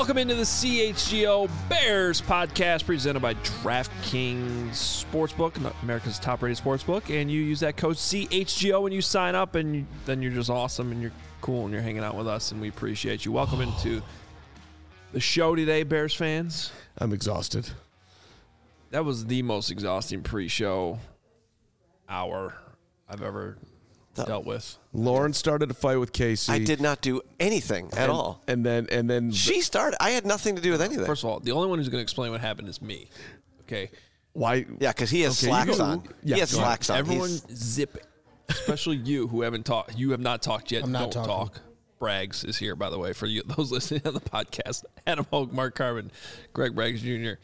Welcome into the CHGO Bears podcast presented by DraftKings Sportsbook, America's top-rated sportsbook. And you use that code CHGO when you sign up, and then you're just awesome and you're cool and you're hanging out with us, and we appreciate you. Welcome into the show today, Bears fans. I'm exhausted. That was the most exhausting pre-show hour I've ever dealt with. Lauren started a fight with Casey. I did not do anything at all. And then She started. I had nothing to do with anything. First of all, the only one who's going to explain what happened is me. Okay. why? Yeah, because he has slacks on. Yeah, he has go ahead. slacks on. Everyone zip it. Especially you who haven't talked. You have not talked yet. I'm not Don't talking. talk. Braggs is here, by the way, for you those listening on the podcast. Adam Hogue, Mark Carmen, Greg Braggs Jr.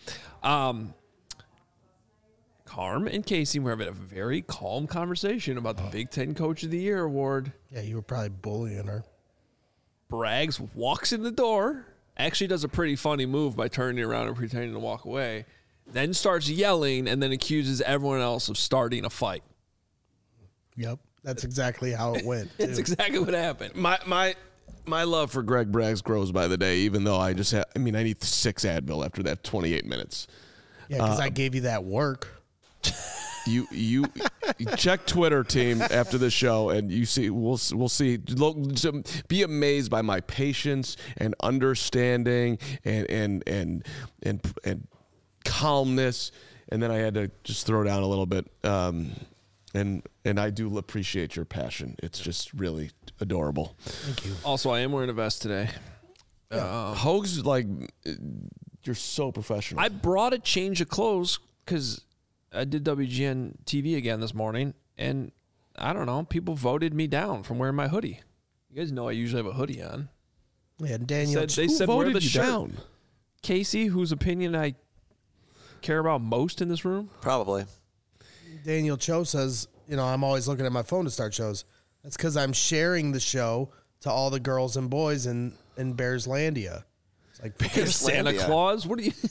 Carm and Casey were having a very calm conversation about the Big Ten Coach of the Year award. Yeah, you were probably bullying her. Braggs walks in the door, actually does a pretty funny move by turning around and pretending to walk away, then starts yelling and then accuses everyone else of starting a fight. Yep, that's exactly how it went. That's too. exactly what happened. My love for Greg Braggs grows by the day, even though I need 6 Advil after that 28 minutes. Yeah, because I gave you that work. You check Twitter, team, after the show, and you see we'll see. Be amazed by my patience and understanding and calmness, and then I had to just throw down a little bit. And I do appreciate your passion. It's just really adorable. Thank you. Also, I am wearing a vest today. Hogue's like, you're so professional. I brought a change of clothes because I did WGN TV again this morning, and I don't know, people voted me down from wearing my hoodie. You guys know I usually have a hoodie on. Yeah, Daniel. They Who said wear voted the you shirt. down? Casey, whose opinion I care about most in this room. Probably. Daniel Cho says, I'm always looking at my phone to start shows. That's because I'm sharing the show to all the girls and boys in Bearslandia. It's like Santa Bearslandia. Claus? What are you?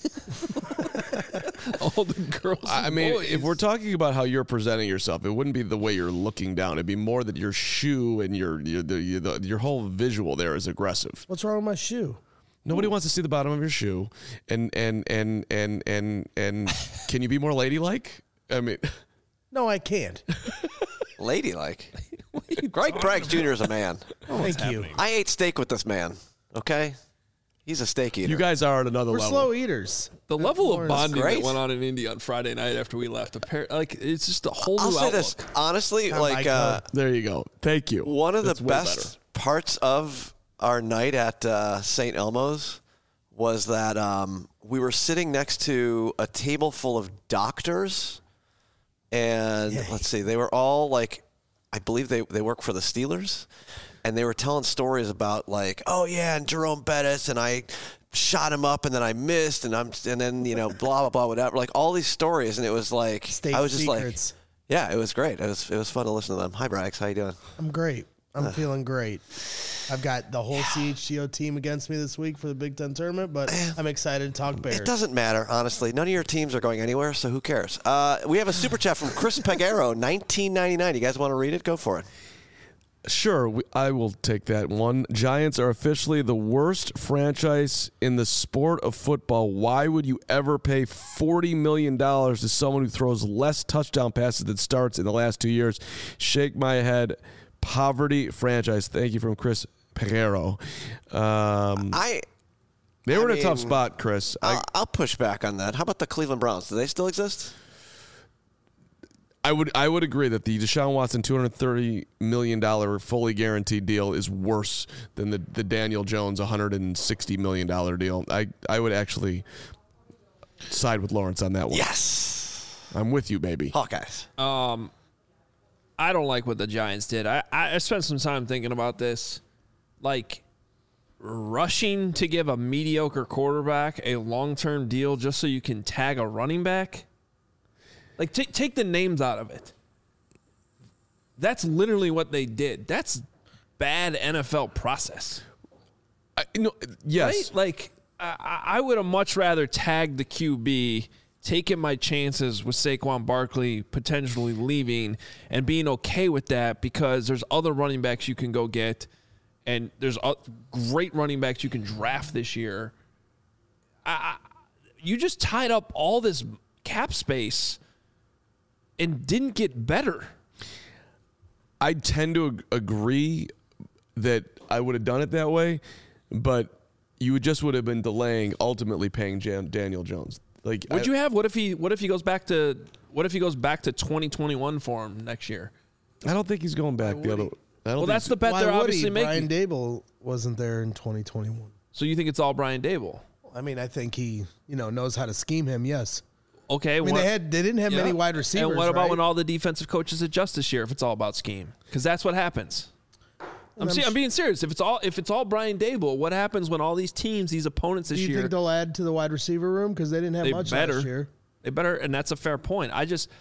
All the girls and I mean, boys. if we're talking about how you're presenting yourself, it wouldn't be the way you're looking down. It'd be more that your shoe and your whole visual there is aggressive. What's wrong with my shoe? Nobody wants to see the bottom of your shoe. And can you be more ladylike? I mean, No, I can't. Ladylike. Greg Braggs Jr. is a man. Thank you. I ate steak with this man. Okay? He's a steak eater. you guys are at another We're level. slow eaters. the level of Lauren's bonding that great. went on in India on Friday night after we left, it's just a whole I'll new say outlook. this. Honestly, Like There you go. Thank you. one of That's the way best parts of our night at St. Elmo's was that we were sitting next to a table full of doctors, and let's see, they were all like, I believe they work for the Steelers, and they were telling stories about like, oh yeah, and Jerome Bettis, and I shot him up, and then I missed, and then blah blah blah whatever, like all these stories, and it was like State I was just secrets. like, yeah, it was great. It was fun to listen to them. Hi Braggs, how you doing? I'm great. I'm feeling great. I've got the whole CHGO team against me this week for the Big Ten tournament, but I'm excited to talk Bears. It doesn't matter, honestly. None of your teams are going anywhere, so who cares? We have a super chat from Chris Peguero, 1999. You guys want to read it? Go for it. Sure, I will take that one. Giants are officially the worst franchise in the sport of football. Why would you ever pay $40 million to someone who throws less touchdown passes than starts in the last 2 years? Shake my head. Poverty franchise. Thank you from Chris Peguero. They were in a tough spot, Chris. I'll push back on that. How about the Cleveland Browns? Do they still exist? I would agree that the Deshaun Watson $230 million fully guaranteed deal is worse than the Daniel Jones $160 million deal. I would actually side with Lawrence on that one. Yes. I'm with you, baby. Hawkeyes. I don't like what the Giants did. I spent some time thinking about this. Like, rushing to give a mediocre quarterback a long-term deal just so you can tag a running back? Like, take the names out of it. That's literally what they did. That's bad NFL process. Yes. Right? Like, I would have much rather tagged the QB, taking my chances with Saquon Barkley potentially leaving and being okay with that because there's other running backs you can go get, and there's great running backs you can draft this year you just tied up all this cap space and didn't get better. I tend to agree that I would have done it that way, but you would have been delaying ultimately paying Daniel Jones. Like, Would you have? What if he goes back to 2021 for him next year? I don't think he's going back the other. Well, that's the bet Why they're would obviously he? making. Brian Dable wasn't there in 2021. So you think it's all Brian Dable? I mean, I think he, knows how to scheme him. Yes. Okay. I mean, they didn't have many wide receivers. And what about right? when all the defensive coaches adjust this year? If it's all about scheme, because that's what happens. I'm being serious. If it's all Brian Dable, what happens when all these teams, these opponents this Do you year? think they'll add to the wide receiver room because they didn't have much last year? They better, and that's a fair point.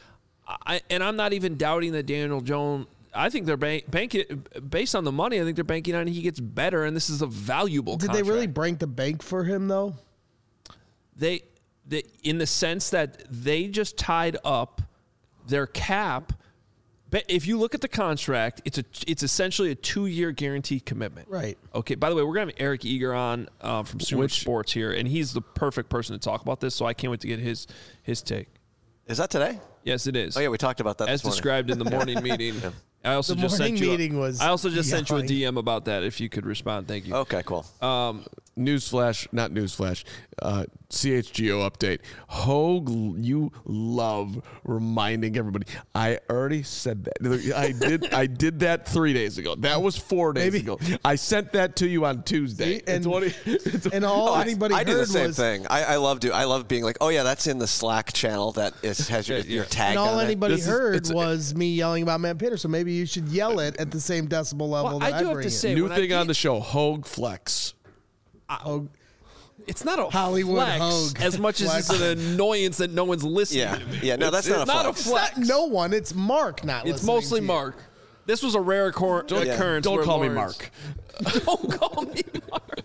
I'm not even doubting that Daniel Jones. I think they're banking based on the money. I think they're banking on he gets better, and this is a valuable. Did contract. they really break the bank for him though? They in the sense that they just tied up their cap. But if you look at the contract, it's essentially a 2-year guaranteed commitment. Right. Okay. By the way, we're gonna have Eric Eager on from Sumer Sports here, and he's the perfect person to talk about this. So I can't wait to get his take. Is that today? Yes, it is. Oh, yeah, we talked about that as this morning. described in the morning meeting. Yeah. I also The just morning sent you. meeting was I also just sent you a yelling. DM about that. If you could respond, thank you. Okay, cool. Newsflash, not newsflash. CHGO update. Hogue, you love reminding everybody. I already said that. I did that 3 days ago. That was 4 days ago. I sent that to you on Tuesday. See, and- and all anybody I heard do the same was, thing. I love being like, oh yeah, that's in the Slack channel that has your tag and all on anybody This is- heard it's- was me yelling about Matt Peter. So maybe you should yell it at the same decibel level Well, that I do have bring to it. say, new when I thing on get- the show, Hogue Flex. Hogue. It's not a Hollywood flex Hogue. as much as it's an annoyance that no one's listening Yeah. to me. Yeah, no, that's it's not a not flex. a flex. It's not no one. It's Mark not It's listening mostly to you. Mark. This was a rare occurrence. Don't where call me Lawrence- Mark. Don't call me Mark.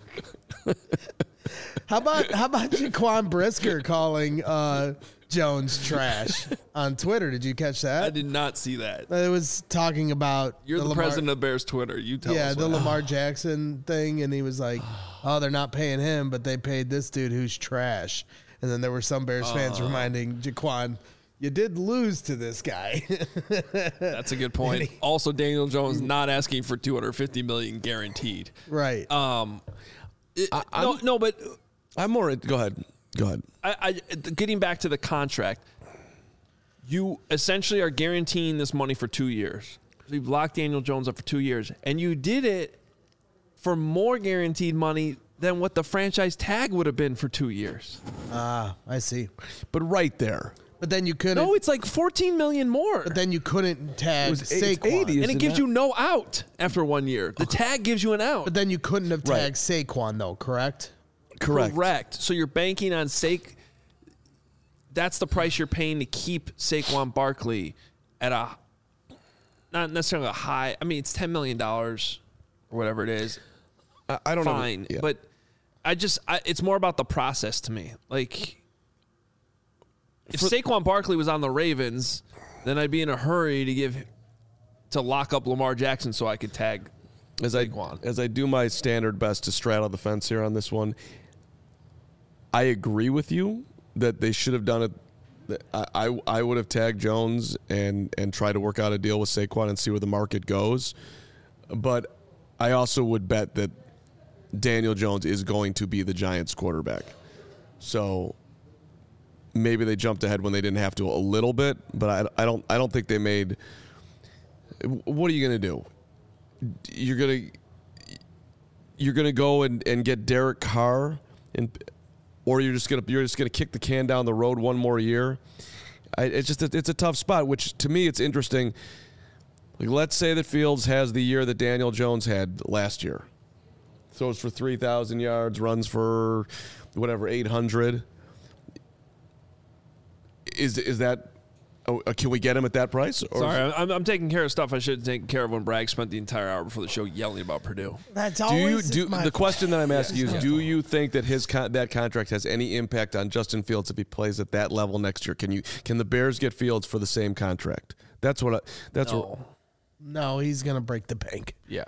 How about Jaquan Brisker calling Jones trash on Twitter? Did you catch I that? did not see that. It was talking about You're the Lamar, president of Bears Twitter. You tell yeah, us. the what- Lamar Jackson thing, and he was like, "Oh, they're not paying him, but they paid this dude who's trash." And then there were some Bears fans reminding Jaquan, "You did lose to this guy." That's a good point. Also, Daniel Jones not asking for $250 million guaranteed. Right. No, but I'm more. Go ahead. getting back to the contract, you essentially are guaranteeing this money for 2 years. So you've locked Daniel Jones up for 2 years, and you did it for more guaranteed money than what the franchise tag would have been for 2 years. I see. But right there. But then you couldn't. No, it's like $14 million more. But then you couldn't tag It's Saquon. 80, and isn't it gives that? you no out after 1 year. The tag gives you an out. But then you couldn't have Right. tagged Saquon, though, correct? Correct. So you're banking on that's the price you're paying to keep Saquon Barkley at a not necessarily a high. I mean, it's $10 million or whatever it is. I don't know. Fine, Yeah. but it's more about the process to me. Like, if Saquon Barkley was on the Ravens, then I'd be in a hurry to lock up Lamar Jackson so I could tag as I do my standard best to straddle the fence here on this one, I agree with you that they should have done it. I would have tagged Jones and try to work out a deal with Saquon and see where the market goes. But I also would bet that Daniel Jones is going to be the Giants quarterback. So maybe they jumped ahead when they didn't have to a little bit, but I don't think they made. What are you going to do? You're gonna go and get Derek Carr, or you're just gonna kick the can down the road one more year. It's a tough spot. Which to me, it's interesting. Like, let's say that Fields has the year that Daniel Jones had last year, throws for 3,000 yards, runs for whatever 800. Is that? Oh, can we get him at that price? Or Sorry, I'm taking care of stuff I should have taken care of when Bragg spent the entire hour before the show yelling about Purdue. That's Do you always do my the question that I'm asking you is, Yeah. do you think that that contract has any impact on Justin Fields if he plays at that level next year? Can the Bears get Fields for the same contract? That's what. No, he's gonna break the bank. Yeah.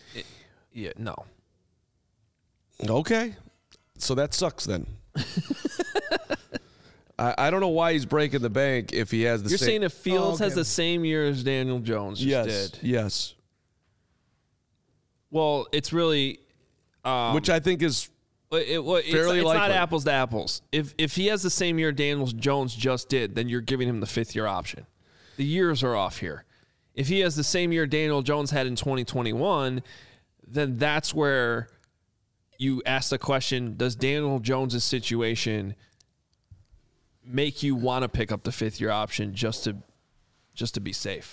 No. Okay, so that sucks then. I don't know why he's breaking the bank if he has the You're same. saying if Fields has the same year as Daniel Jones just did. Yes. Well, it's really Which I think is it's fairly not likely. apples to apples. If he has the same year Daniel Jones just did, then you're giving him the 5th-year option. The years are off here. If he has the same year Daniel Jones had in 2021, then that's where you ask the question, does Daniel Jones' situation make you want to pick up the 5th-year option just to be safe?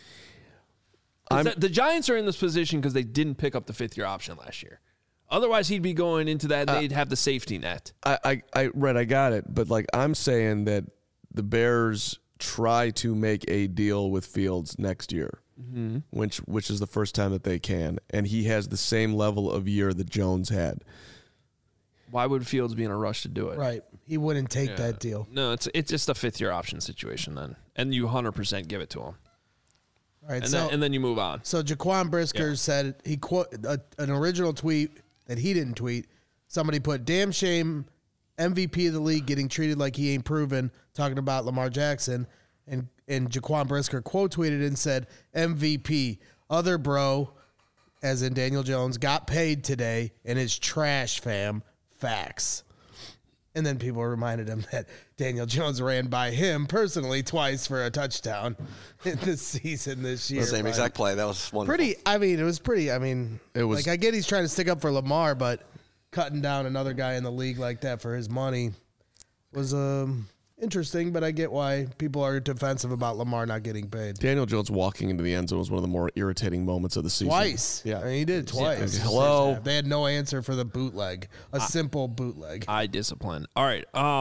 The Giants are in this position because they didn't pick up the 5th-year option last year. Otherwise, he'd be going into that. They'd have the safety net. I got it. But like I'm saying that the Bears try to make a deal with Fields next year, which is the first time that they can, and he has the same level of year that Jones had. Why would Fields be in a rush to do it? Right. He wouldn't take that deal. No, it's just a 5th-year option situation then, and you 100% give it to him. All right. And then you move on. So Jaquan Brisker said he an original tweet that he didn't tweet. Somebody put, "Damn shame, MVP of the league getting treated like he ain't proven," talking about Lamar Jackson. And Jaquan Brisker quote tweeted and said, "MVP, other bro," as in Daniel Jones, "got paid today and is trash, fam. Facts." And then people reminded him that Daniel Jones ran by him personally twice for a touchdown in the season this year. The same exact play. That was wonderful. It was pretty. It was like, I get he's trying to stick up for Lamar, but cutting down another guy in the league like that for his money was interesting. But I get why people are defensive about Lamar not getting paid. Daniel Jones walking into the end zone was one of the more irritating moments of the season. Twice. Yeah. I mean, he did it twice. Yeah. Hello. They had no answer for the bootleg. A simple bootleg. Eye discipline. All right.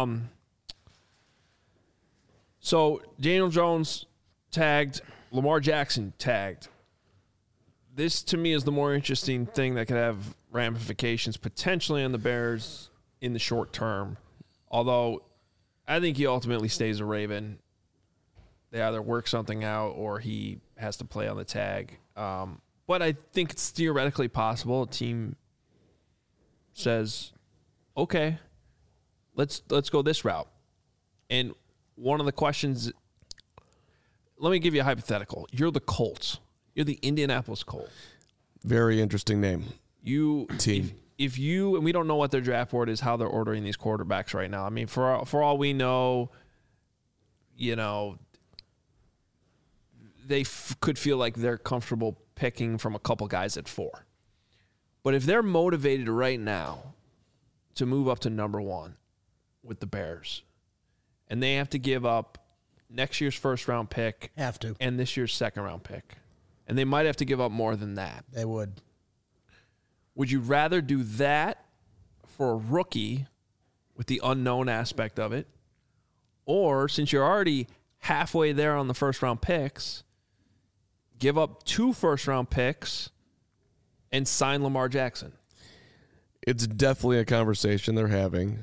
So Daniel Jones tagged, Lamar Jackson tagged. This to me is the more interesting thing that could have ramifications potentially on the Bears in the short term. Although I think he ultimately stays a Raven. They either work something out or he has to play on the tag. But I think it's theoretically possible. A team says, okay, let's go this route. And one of the questions, let me give you a hypothetical. You're the Colts. You're the Indianapolis Colts. Very interesting name. Team. If you, and we don't know what their draft board is, how they're ordering these quarterbacks right now. I mean, for all we know, they could feel like they're comfortable picking from a couple guys at 4. But if they're motivated right now to move up to number 1 with the Bears, and they have to give up next year's first-round pick and this year's second-round pick, and they might have to give up more than that. They would. Would you rather do that for a rookie with the unknown aspect of it, or since you're already halfway there on the first-round picks, give up 2 first-round picks and sign Lamar Jackson? It's definitely a conversation they're having.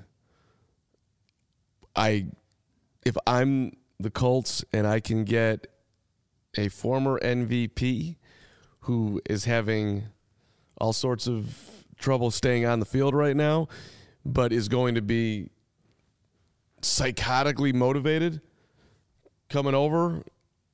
If I'm the Colts and I can get a former MVP who is having all sorts of trouble staying on the field right now, but is going to be psychotically motivated coming over,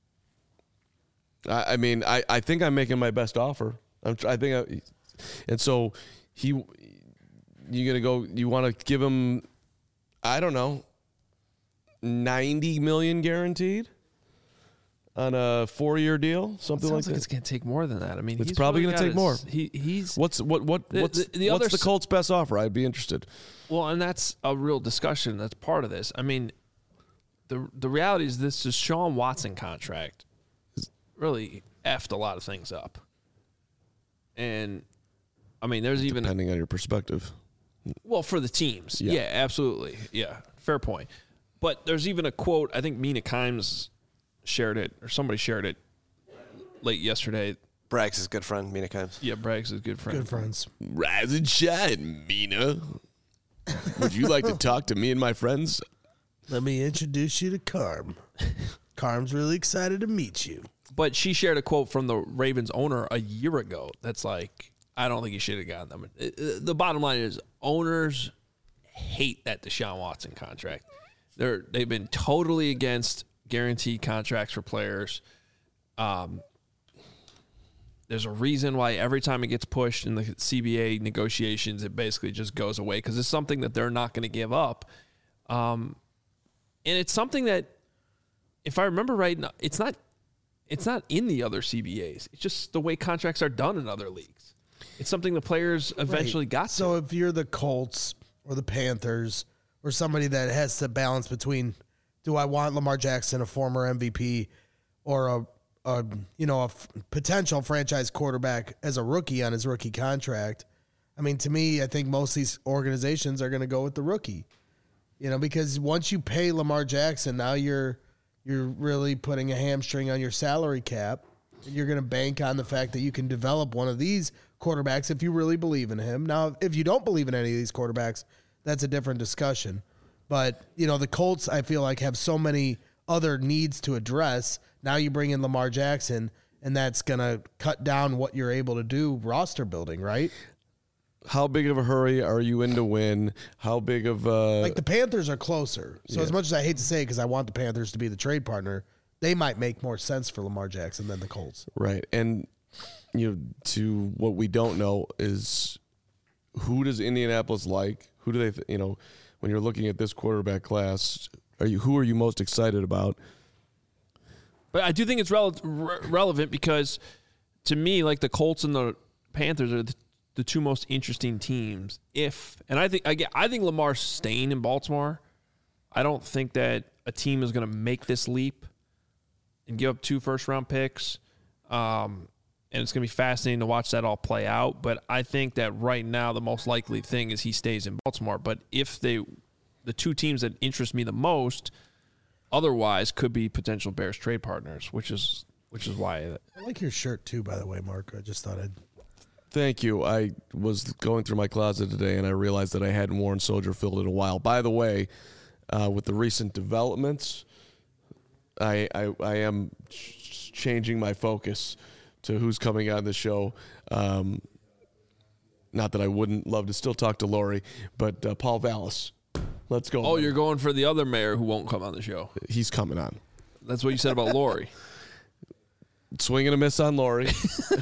I mean, I think I'm making my best offer. And so you want to give him, I don't know, $90 million guaranteed on a 4-year deal, something like that. It's going to take more than that. I mean, it's probably going to take more. What's the Colts' best offer? I'd be interested. Well, and that's a real discussion. That's part of this. I mean, the reality is this Deshaun Watson contract really effed a lot of things up. And I mean, there's even depending on your perspective. Well, for the teams, yeah, absolutely, yeah, fair point. But there's even a quote. I think Mina Kimes shared it, or somebody shared it late yesterday. Braggs' good friend, Mina Kimes. Yeah, Braggs is good friend. Good friends. Rise and shine, Mina. Would you like to talk to me and my friends? Let me introduce you to Carm. Carm's really excited to meet you. But she shared a quote from the Ravens owner a year ago that's like, I don't think he should have gotten them. The bottom line is owners hate that Deshaun Watson contract. They've been totally against guaranteed contracts for players. There's a reason why every time it gets pushed in the CBA negotiations, it basically just goes away because it's something that they're not going to give up. And it's something that, if I remember right, it's not in the other CBAs. It's just the way contracts are done in other leagues. It's something the players eventually got to. So if you're the Colts or the Panthers or somebody that has to balance between, do I want Lamar Jackson, a former MVP, or a potential franchise quarterback as a rookie on his rookie contract? I mean, to me, I think most of these organizations are going to go with the rookie. Because once you pay Lamar Jackson, now you're really putting a hamstring on your salary cap, and you're going to bank on the fact that you can develop one of these quarterbacks if you really believe in him. Now, if you don't believe in any of these quarterbacks, that's a different discussion. But, the Colts, I feel like, have so many other needs to address. Now you bring in Lamar Jackson, and that's going to cut down what you're able to do roster building, right? How big of a hurry are you in to win? How big of a... Like the Panthers are closer. So as much as I hate to say it because I want the Panthers to be the trade partner, they might make more sense for Lamar Jackson than the Colts. Right. And, to what we don't know is who does Indianapolis like? Who do they, when you're looking at this quarterback class, who are you most excited about? But I do think it's relevant because, to me, like the Colts and the Panthers are the two most interesting teams. I think Lamar's staying in Baltimore. I don't think that a team is going to make this leap and give up 2 first-round picks. And it's going to be fascinating to watch that all play out. But I think that right now the most likely thing is he stays in Baltimore. But if the two teams that interest me the most otherwise could be potential Bears trade partners, which is why. I like your shirt too, by the way, Mark. I just thought I'd... Thank you. I was going through my closet today, and I realized that I hadn't worn Soldier Filled in a while. By the way, with the recent developments, I am changing my focus to who's coming on the show. Not that I wouldn't love to still talk to Lori, but Paul Vallis. Let's go. Oh, you're going for the other mayor who won't come on the show. He's coming on. That's what you said about Lori. Swing and a miss on Lori.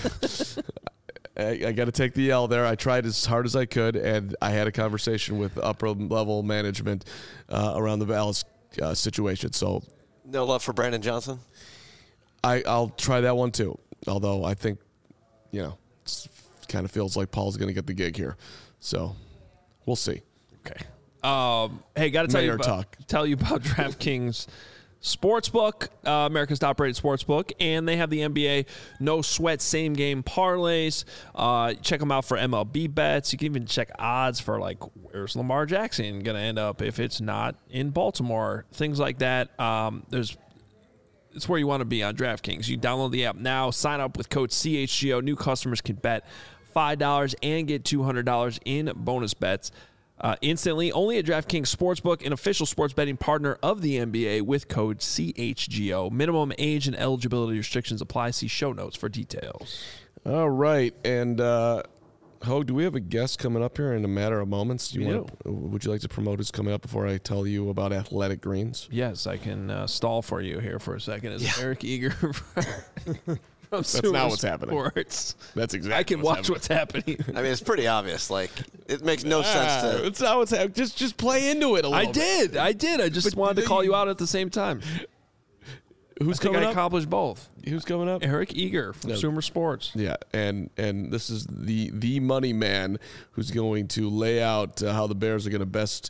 I got to take the L there. I tried as hard as I could, and I had a conversation with upper-level management around the Vallis situation. So, No love for Brandon Johnson? I'll try that one too. Although I think, it kind of feels like Paul's going to get the gig here. So, we'll see. Okay. Hey, got to tell you about DraftKings Sportsbook, America's top-rated sportsbook, and they have the NBA no-sweat same-game parlays. Check them out for MLB bets. You can even check odds for, where's Lamar Jackson going to end up if it's not in Baltimore, things like that. It's where you want to be on DraftKings. You download the app now, sign up with code CHGO. New customers can bet $5 and get $200 in bonus bets instantly. Only at DraftKings Sportsbook, an official sports betting partner of the NBA, with code CHGO. Minimum age and eligibility restrictions apply. See show notes for details. All right. And, Hogue, do we have a guest coming up here in a matter of moments? Would you like to promote who's coming up before I tell you about Athletic Greens? Yes, I can stall for you here for a second. It's Eric Eager from That's not what's happening. Sports. That's exactly I can watch what's happening. I mean, it's pretty obvious. It makes no sense to... It's not what's happening. Just play into it a little bit. I did. I just wanted to call you out at the same time. Who's I think coming I up? accomplished both. Who's coming up? Eric Eager from Sumer Sports. Yeah, and this is the money man who's going to lay out how the Bears are going to best,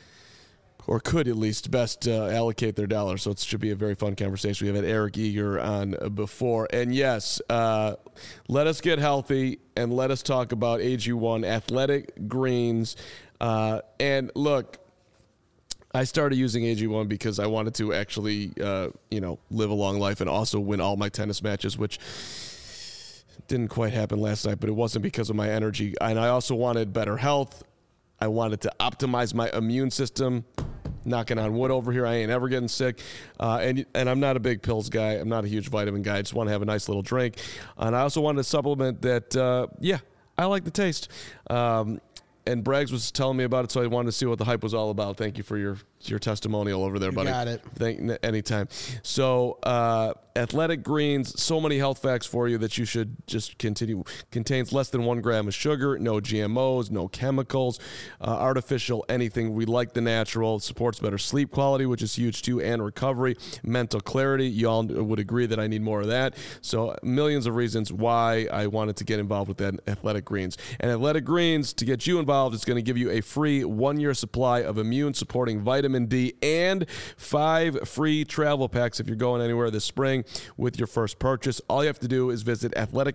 or could at least best, allocate their dollars. So it should be a very fun conversation. We have had Eric Eager on before. And yes, let us get healthy and let us talk about AG1 Athletic Greens. And look, I started using AG1 because I wanted to actually, live a long life and also win all my tennis matches, which didn't quite happen last night, but it wasn't because of my energy. And I also wanted better health. I wanted to optimize my immune system. Knocking on wood over here. I ain't ever getting sick. And I'm not a big pills guy. I'm not a huge vitamin guy. I just want to have a nice little drink. And I also wanted to supplement that, I like the taste. and Braggs was telling me about it, so I wanted to see what the hype was all about. Thank you for your testimonial over there, buddy. Got it. Anytime. So, Athletic Greens, so many health facts for you that you should just continue. Contains less than 1 gram of sugar, no GMOs, no chemicals, artificial anything. We like the natural. It supports better sleep quality, which is huge too, and recovery, mental clarity. You all would agree that I need more of that. So, millions of reasons why I wanted to get involved with that Athletic Greens. And Athletic Greens, to get you involved, is going to give you a free 1-year supply of immune-supporting vitamin D and 5 free travel packs if you're going anywhere this spring with your first purchase. All you have to do is visit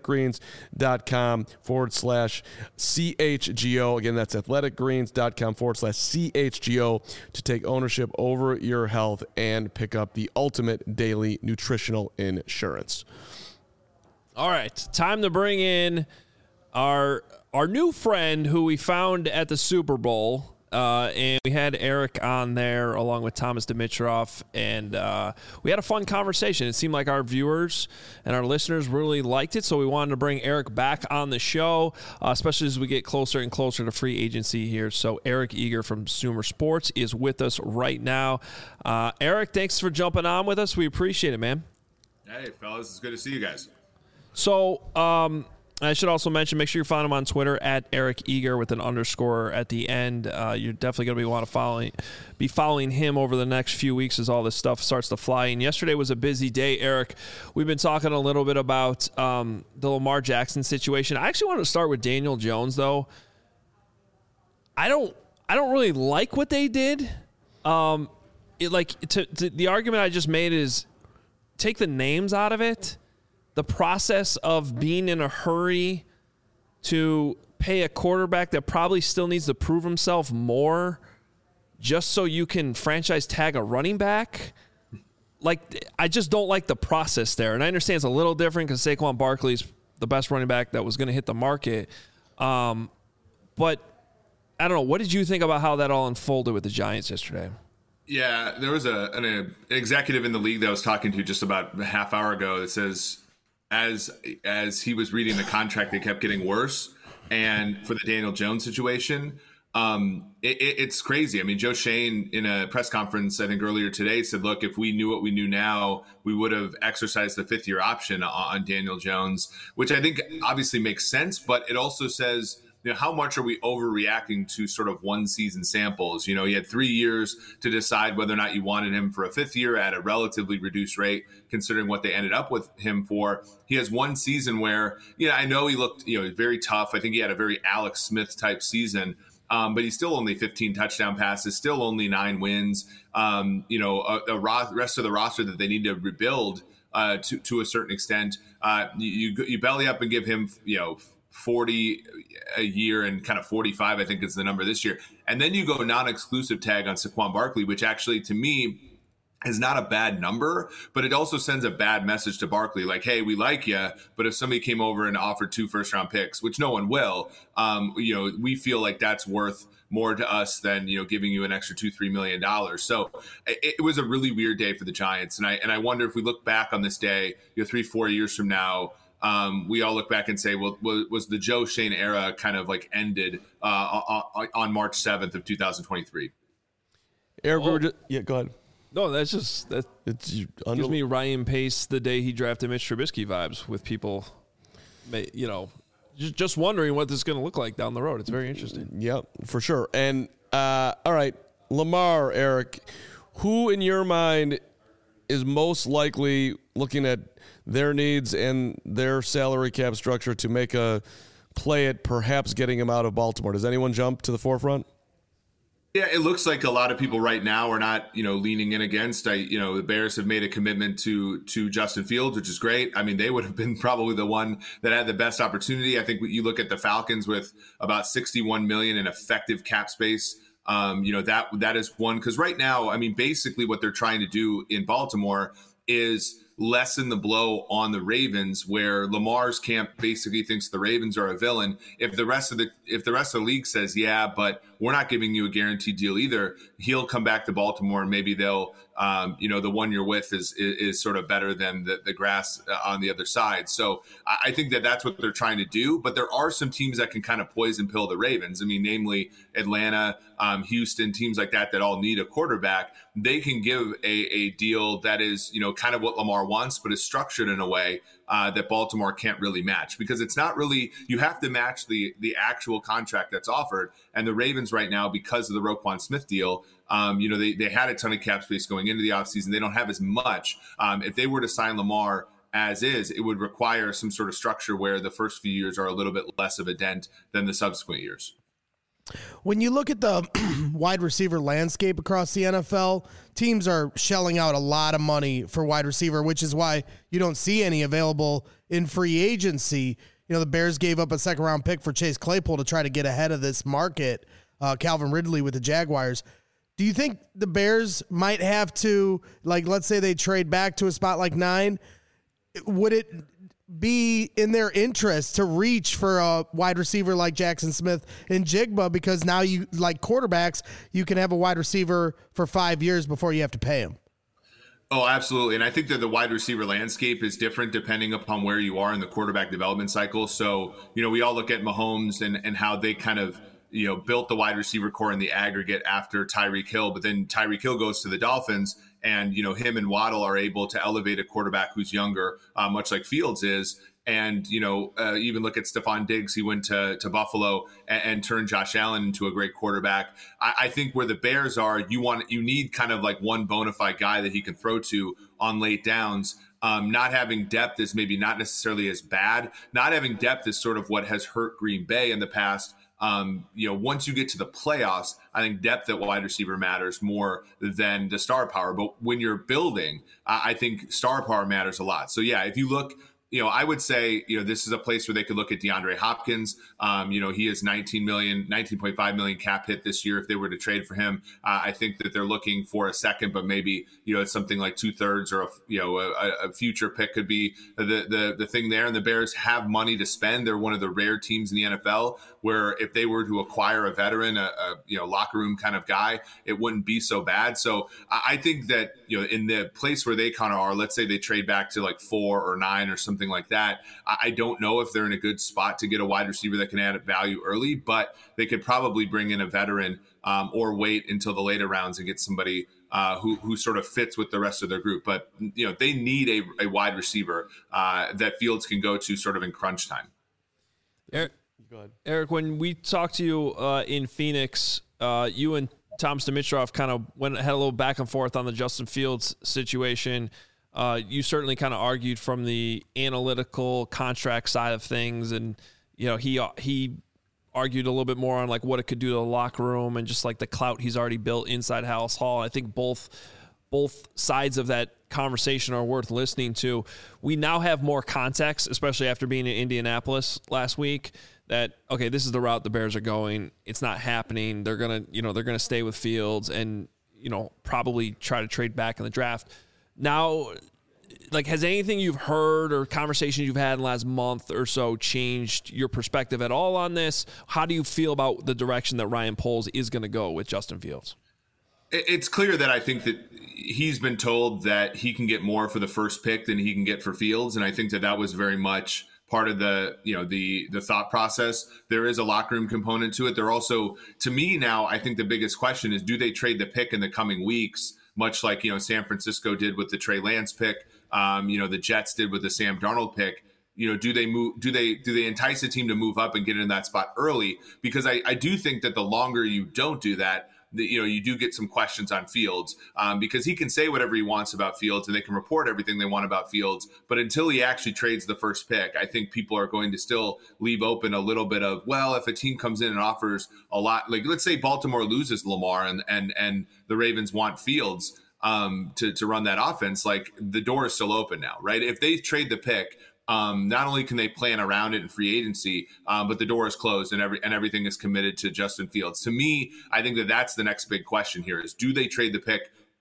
athleticgreens.com/CHGO. Again, that's athleticgreens.com/CHGO to take ownership over your health and pick up the ultimate daily nutritional insurance. All right, time to bring in our new friend who we found at the Super Bowl. And we had Eric on there along with Thomas Dimitrov, and we had a fun conversation. It seemed like our viewers and our listeners really liked it, so we wanted to bring Eric back on the show, especially as we get closer and closer to free agency here. So Eric Eager from Zoomer Sports is with us right now. Eric, thanks for jumping on with us. We appreciate it, man. Hey, fellas, it's good to see you guys. So, I should also mention, make sure you follow him on Twitter at Eric Eager with an underscore at the end. You're definitely going to be following him over the next few weeks as all this stuff starts to fly in. Yesterday was a busy day, Eric. We've been talking a little bit about the Lamar Jackson situation. I actually wanted to start with Daniel Jones, though. I don't really like what they did. The argument I just made is take the names out of it. The process of being in a hurry to pay a quarterback that probably still needs to prove himself more just so you can franchise tag a running back. Like, I just don't like the process there. And I understand it's a little different because Saquon Barkley's the best running back that was going to hit the market. But I don't know. What did you think about how that all unfolded with the Giants yesterday? Yeah, there was an executive in the league that I was talking to just about a half hour ago that says, as he was reading the contract, it kept getting worse. And for the Daniel Jones situation, it's crazy. I mean, Joe Schoen in a press conference, I think earlier today, said, look, if we knew what we knew now, we would have exercised the 5th-year option on Daniel Jones, which I think obviously makes sense. But it also says, how much are we overreacting to sort of one season samples? You had 3 years to decide whether or not you wanted him for a 5th year at a relatively reduced rate, considering what they ended up with him for. He has one season where, I know he looked, very tough. I think he had a very Alex Smith type season, but he's still only 15 touchdown passes, still only 9 wins. Rest of the roster that they need to rebuild to a certain extent. You belly up and give him, 40 a year and kind of 45, I think is the number this year. And then you go non-exclusive tag on Saquon Barkley, which actually to me is not a bad number, but it also sends a bad message to Barkley. Like, hey, we like you, but if somebody came over and offered 2 first-round picks, which no one will, we feel like that's worth more to us than, giving you an extra $2-3 million. So it was a really weird day for the Giants. And I wonder if we look back on this day, 3-4 years from now, we all look back and say, well, was the Joe Schoen era kind of like ended on March 7th of 2023? Eric, go ahead. No, that's just that. Gives me Ryan Pace the day he drafted Mitch Trubisky vibes with people, just wondering what this is going to look like down the road. It's very interesting. Yep, for sure. And all right, Lamar, Eric, who in your mind is most likely, looking at their needs and their salary cap structure, to make a play at perhaps getting him out of Baltimore? Does anyone jump to the forefront? Yeah, it looks like a lot of people right now are not, leaning in against. The Bears have made a commitment to Justin Fields, which is great. I mean, they would have been probably the one that had the best opportunity. I think you look at the Falcons with about $61 million in effective cap space. That is one, because right now, I mean, basically what they're trying to do in Baltimore is lessen the blow on the Ravens, where Lamar's camp basically thinks the Ravens are a villain. If the rest of the league says, yeah, but we're not giving you a guaranteed deal either, he'll come back to Baltimore and maybe they'll, the one you're with is sort of better than the grass on the other side. So I think that's what they're trying to do. But there are some teams that can kind of poison pill the Ravens. I mean, namely Atlanta, Houston, teams like that all need a quarterback. They can give a deal that is, kind of what Lamar wants, but is structured in a way that Baltimore can't really match, because it's not really, you have to match the actual contract that's offered. And the Ravens right now, because of the Roquan Smith deal, they had a ton of cap space going into the offseason. They don't have as much. If they were to sign Lamar as is, it would require some sort of structure where the first few years are a little bit less of a dent than the subsequent years. When you look at the wide receiver landscape across the NFL, teams are shelling out a lot of money for wide receiver, which is why you don't see any available in free agency. The Bears gave up a second-round pick for Chase Claypool to try to get ahead of this market, Calvin Ridley with the Jaguars. Do you think the Bears might have to, let's say they trade back to a spot like 9, would it be in their interest to reach for a wide receiver like Jackson Smith and Jigba, because now you, like quarterbacks, you can have a wide receiver for 5 years before you have to pay him? Oh, absolutely. And I think that the wide receiver landscape is different depending upon where you are in the quarterback development cycle. So, we all look at Mahomes and how they kind of, built the wide receiver core in the aggregate after Tyreek Hill, but then Tyreek Hill goes to the Dolphins, and, him and Waddle are able to elevate a quarterback who's younger, much like Fields is. And, even look at Stephon Diggs. He went to Buffalo and turned Josh Allen into a great quarterback. I think where the Bears are, you need kind of like one bona fide guy that he can throw to on late downs. Not having depth is maybe not necessarily as bad. Not having depth is sort of what has hurt Green Bay in the past. Once you get to the playoffs, I think depth at wide receiver matters more than the star power. But when you're building, I think star power matters a lot. So yeah, if you look, I would say, this is a place where they could look at DeAndre Hopkins. He is 19.5 million cap hit this year if they were to trade for him. I think that they're looking for a second, but maybe, it's something like 2/3 or a future pick could be the thing there. And the Bears have money to spend. They're one of the rare teams in the NFL where if they were to acquire a veteran, a locker room kind of guy, it wouldn't be so bad. So I think that, in the place where they kind of are, let's say they trade back to like 4 or 9 or something like that, I don't know if they're in a good spot to get a wide receiver that can add value early, but they could probably bring in a veteran or wait until the later rounds and get somebody who sort of fits with the rest of their group. But, they need a wide receiver that Fields can go to sort of in crunch time. Eric, when we talked to you in Phoenix, you and Tom Dimitrov kind of had a little back and forth on the Justin Fields situation. You certainly kind of argued from the analytical contract side of things, and he argued a little bit more on like what it could do to the locker room and just like the clout he's already built inside Halas Hall. I think both sides of that conversation are worth listening to. We now have more context, especially after being in Indianapolis last week, that, okay, this is the route the Bears are going. It's not happening. They're going to stay with Fields and, probably try to trade back in the draft. Now, like, has anything you've heard or conversations you've had in the last month or so changed your perspective at all on this? How do you feel about the direction that Ryan Poles is going to go with Justin Fields? It's clear that I think that he's been told that he can get more for the first pick than he can get for Fields. And I think that was very much part of the thought process. There is a locker room component to it. There also, to me now, I think the biggest question is, do they trade the pick in the coming weeks, much like, San Francisco did with the Trey Lance pick, the Jets did with the Sam Darnold pick. Do they entice a team to move up and get in that spot early? Because I do think that the longer you don't do that, you do get some questions on Fields, because he can say whatever he wants about Fields and they can report everything they want about Fields. But until he actually trades the first pick, I think people are going to still leave open a little bit of, well, if a team comes in and offers a lot, like let's say Baltimore loses Lamar and the Ravens want Fields to run that offense, like the door is still open now, right? If they trade the pick, not only can they plan around it in free agency, but the door is closed and everything is committed to Justin Fields. To me, I think that's the next big question here is, do they trade the pick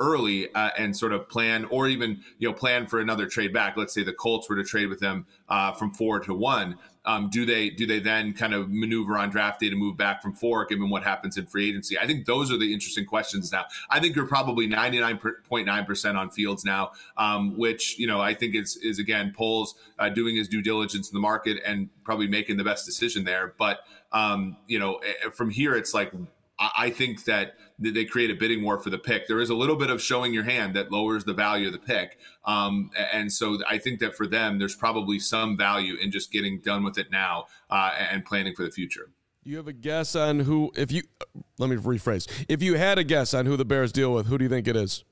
early and sort of plan, or even plan for another trade back. Let's say the Colts were to trade with them from 4 to 1. Do they then kind of maneuver on draft day to move back from 4, given what happens in free agency? I think those are the interesting questions now. I think you're probably 99.9% on Fields now, which I think is again Poles doing his due diligence in the market and probably making the best decision there. But from here, it's like I think that they create a bidding war for the pick. There is a little bit of showing your hand that lowers the value of the pick. And so I think that for them, there's probably some value in just getting done with it now and planning for the future. You have a guess on who, let me rephrase. If you had a guess on who the Bears deal with, who do you think it is?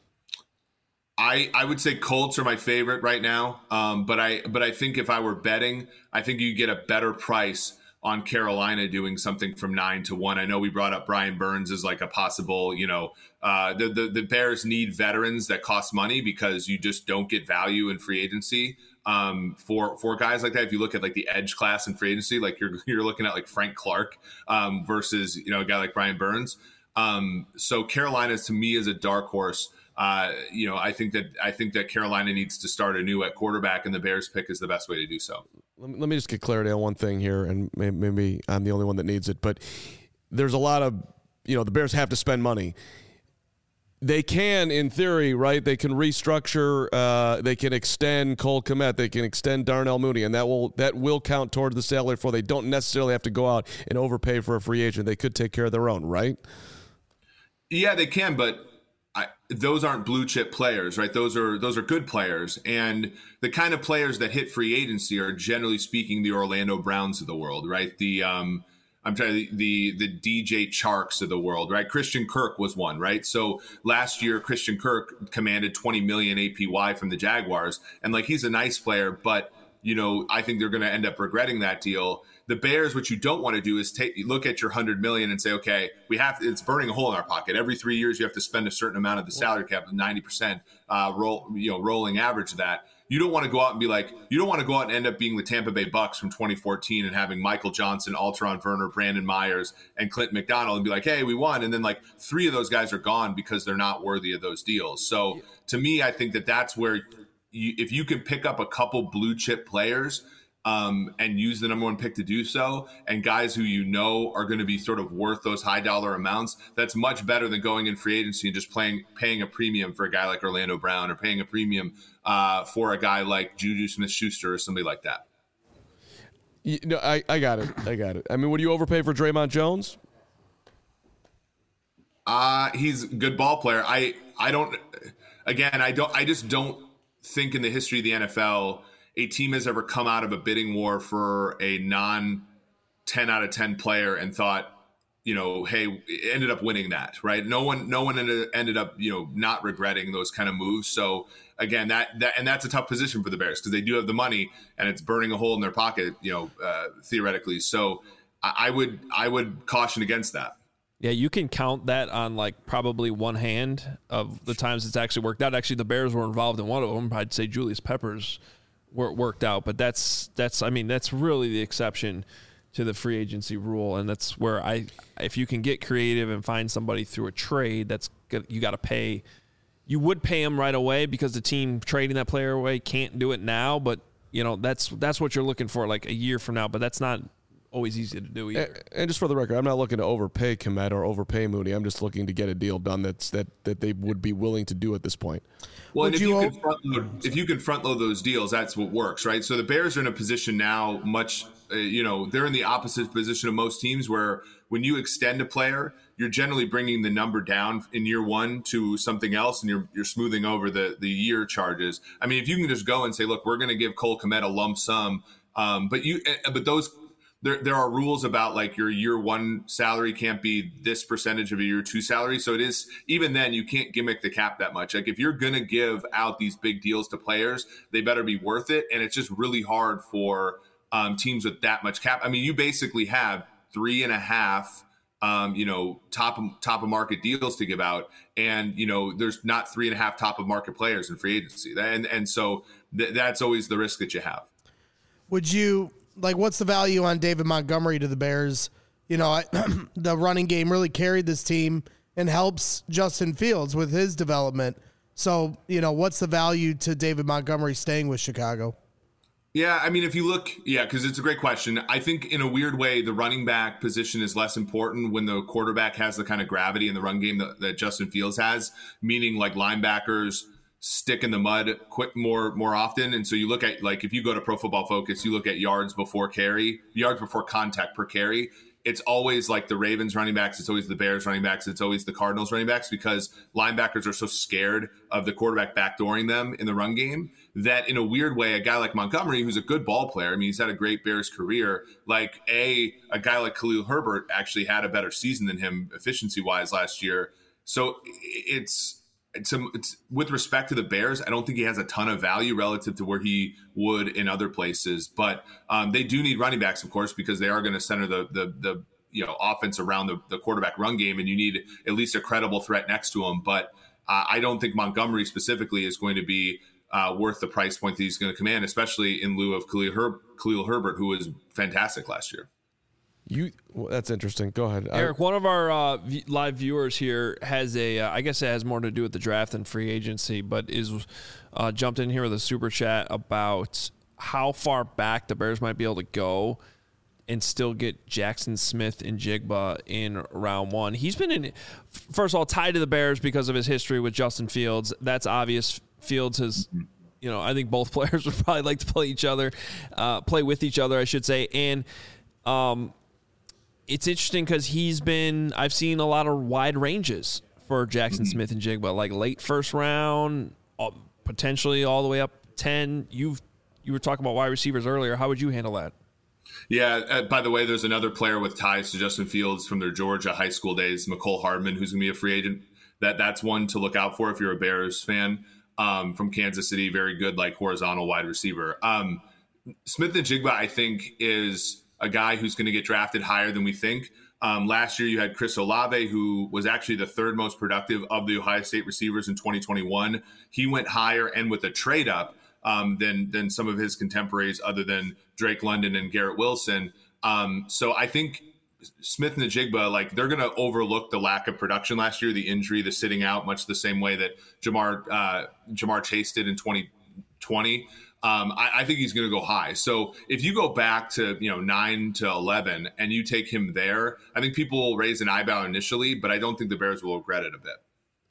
I would say Colts are my favorite right now. But I think if I were betting, I think you get a better price on Carolina doing something from 9 to 1. I know we brought up Brian Burns as like a possible, the Bears need veterans that cost money because you just don't get value in free agency for guys like that. If you look at like the edge class in free agency, like you're looking at like Frank Clark versus, a guy like Brian Burns. So Carolina to me is a dark horse. I think that Carolina needs to start anew at quarterback, and the Bears pick is the best way to do so. Let me just get clarity on one thing here, and maybe I'm the only one that needs it, but there's a lot of, the Bears have to spend money. They can, in theory, right? They can restructure. They can extend Cole Kmet. They can extend Darnell Mooney, and that will count towards the salary for. They don't necessarily have to go out and overpay for a free agent. They could take care of their own, right? Yeah, they can, but those aren't blue chip players, right? Those are good players, and the kind of players that hit free agency are generally speaking the Orlando Browns of the world, right? The DJ Charks of the world, right? Christian Kirk was one, right? So last year, Christian Kirk commanded $20 million APY from the Jaguars, and like he's a nice player, but I think they're going to end up regretting that deal. The Bears, what you don't want to do is look at your $100 million and say, okay, it's burning a hole in our pocket. Every 3 years, you have to spend a certain amount of the salary cap, 90% rolling average of that. You don't want to go out and be like, you don't want to go out and end up being the Tampa Bay Bucks from 2014 and having Michael Johnson, Alteron Werner, Brandon Myers, and Clinton McDonald and be like, hey, we won. And then like 3 of those guys are gone because they're not worthy of those deals. So to me, I think that's where if you can pick up a couple blue chip players and use the number 1 pick to do so, and guys who are going to be sort of worth those high dollar amounts, that's much better than going in free agency and just paying a premium for a guy like Orlando Brown or paying a premium for a guy like Juju Smith-Schuster or somebody like that. I got it. I mean, would you overpay for Draymond Jones? He's a good ball player. I just don't think in the history of the NFL a team has ever come out of a bidding war for a non 10 out of 10 player and thought, hey, ended up winning that, right? No one ended up, not regretting those kind of moves. So again, that's a tough position for the Bears because they do have the money and it's burning a hole in their pocket, theoretically. So I would caution against that. Yeah, you can count that on like probably one hand of the times it's actually worked out. Actually, the Bears were involved in one of them. I'd say Julius Peppers worked out, but that's really the exception to the free agency rule, and that's where if you can get creative and find somebody through a trade, that's good. You got to pay. You would pay them right away because the team trading that player away can't do it now, but that's what you're looking for like a year from now. But that's not always easy to do either. And just for the record, I'm not looking to overpay Kmet or overpay Mooney. I'm just looking to get a deal done that they would be willing to do at this point. Well, and if you can front load those deals, that's what works, right? So the Bears are in a position now they're in the opposite position of most teams where when you extend a player, you're generally bringing the number down in year 1 to something else, and you're smoothing over the year charges. I mean, if you can just go and say, look, we're going to give Cole Kmet a lump sum, but those there are rules about like your year 1 salary can't be this percentage of a year 2 salary. So it is, even then you can't gimmick the cap that much. Like if you're going to give out these big deals to players, they better be worth it. And it's just really hard for teams with that much cap. I mean, you basically have 3.5, top of market deals to give out. And, there's not 3.5 top of market players in free agency. And so that's always the risk that you have. Would you, what's the value on David Montgomery to the Bears? The running game really carried this team and helps Justin Fields with his development. So, what's the value to David Montgomery staying with Chicago? Yeah, I mean, if you look, because it's a great question. I think in a weird way, the running back position is less important when the quarterback has the kind of gravity in the run game that Justin Fields has, meaning like linebackers stick in the mud quick more often. And so you look at, like, if you go to Pro Football Focus, you look at yards before contact per carry. It's always like the Ravens running backs. It's always the Bears running backs. It's always the Cardinals running backs, because linebackers are so scared of the quarterback backdooring them in the run game that in a weird way, a guy like Montgomery, who's a good ball player, I mean, he's had a great Bears career, like a guy like Khalil Herbert actually had a better season than him efficiency wise last year. So it's with respect to the Bears, I don't think he has a ton of value relative to where he would in other places, but they do need running backs, of course, because they are going to center the offense around the quarterback run game, and you need at least a credible threat next to him. But I don't think Montgomery specifically is going to be worth the price point that he's going to command, especially in lieu of Khalil Herbert, who was fantastic last year. That's interesting. Go ahead, Eric. One of our live viewers here has I guess it has more to do with the draft than free agency, but is jumped in here with a super chat about how far back the Bears might be able to go and still get Jackson Smith and Jigba in round one. He's been first of all, tied to the Bears because of his history with Justin Fields. That's obvious. Fields has, I think both players would probably like to play with each other, I should say. And, it's interesting because I've seen a lot of wide ranges for Jackson Smith and Jigba, like late first round, potentially all the way up 10. You were talking about wide receivers earlier. How would you handle that? Yeah. By the way, there's another player with ties to Justin Fields from their Georgia high school days, Mecole Hardman, who's going to be a free agent. That's one to look out for if you're a Bears fan. From Kansas City, very good, like horizontal wide receiver. Smith and Jigba, I think, is a guy who's going to get drafted higher than we think. Last year, you had Chris Olave, who was actually the third most productive of the Ohio State receivers in 2021. He went higher and with a trade up than some of his contemporaries, other than Drake London and Garrett Wilson. So I think Smith and Jigba, like, they're going to overlook the lack of production last year, the injury, the sitting out, much the same way that Jamar Chase did in 2020. I think he's going to go high. So if you go back to 9 to 11 and you take him there, I think people will raise an eyebrow initially, but I don't think the Bears will regret it a bit.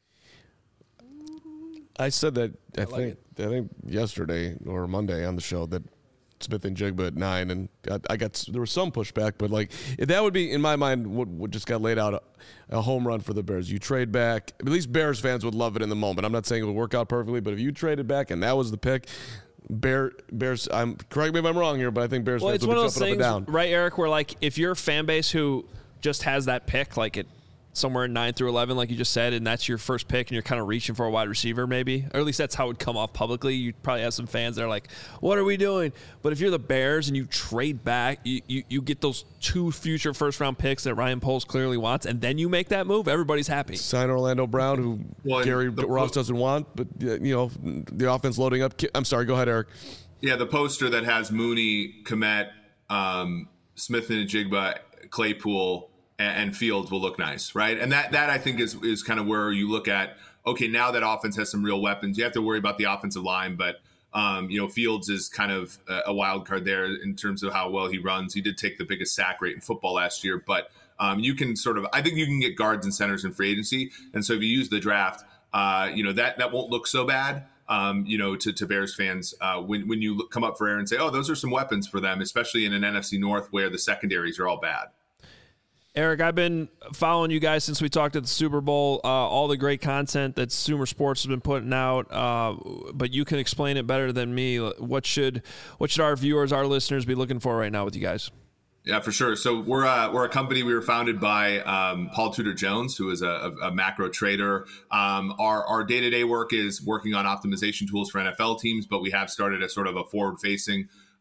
I said that I think yesterday or Monday on the show that Smith and Jigba at 9, and there was some pushback, but like that would be, in my mind, what just got laid out a home run for the Bears. You trade back, at least Bears fans would love it in the moment. I'm not saying it would work out perfectly, but if you traded back and that was the pick, Bears. Correct me if I'm wrong here, but I think Bears fans would be jumping up and down. Right, Eric? Where like if you're a fan base who just has that pick, like it somewhere in 9 through 11, like you just said, and that's your first pick, and you're kind of reaching for a wide receiver, maybe, or at least that's how it would come off publicly. You probably have some fans that are like, "What are we doing?" But if you're the Bears and you trade back, you get those 2 future first round picks that Ryan Poles clearly wants, and then you make that move, everybody's happy. Sign Orlando Brown, who Gary Ross doesn't want, but the offense loading up. I'm sorry, go ahead, Eric. Yeah, the poster that has Mooney, Kmet, Smith and Jigba, Claypool, and Fields will look nice, right? And that I think is kind of where you look at, okay, now that offense has some real weapons. You have to worry about the offensive line, but Fields is kind of a wild card there in terms of how well he runs. He did take the biggest sack rate in football last year, but you can I think you can get guards and centers in free agency. And so if you use the draft, that won't look so bad. To Bears fans, when you come up for air and say, oh, those are some weapons for them, especially in an NFC North where the secondaries are all bad. Eric, I've been following you guys since we talked at the Super Bowl, all the great content that Sumer Sports has been putting out, but you can explain it better than me. What should our viewers, our listeners be looking for right now with you guys? Yeah, for sure. So we're a company. We were founded by Paul Tudor Jones, who is a macro trader. Our day-to-day work is working on optimization tools for NFL teams, but we have started a sort of a forward-facing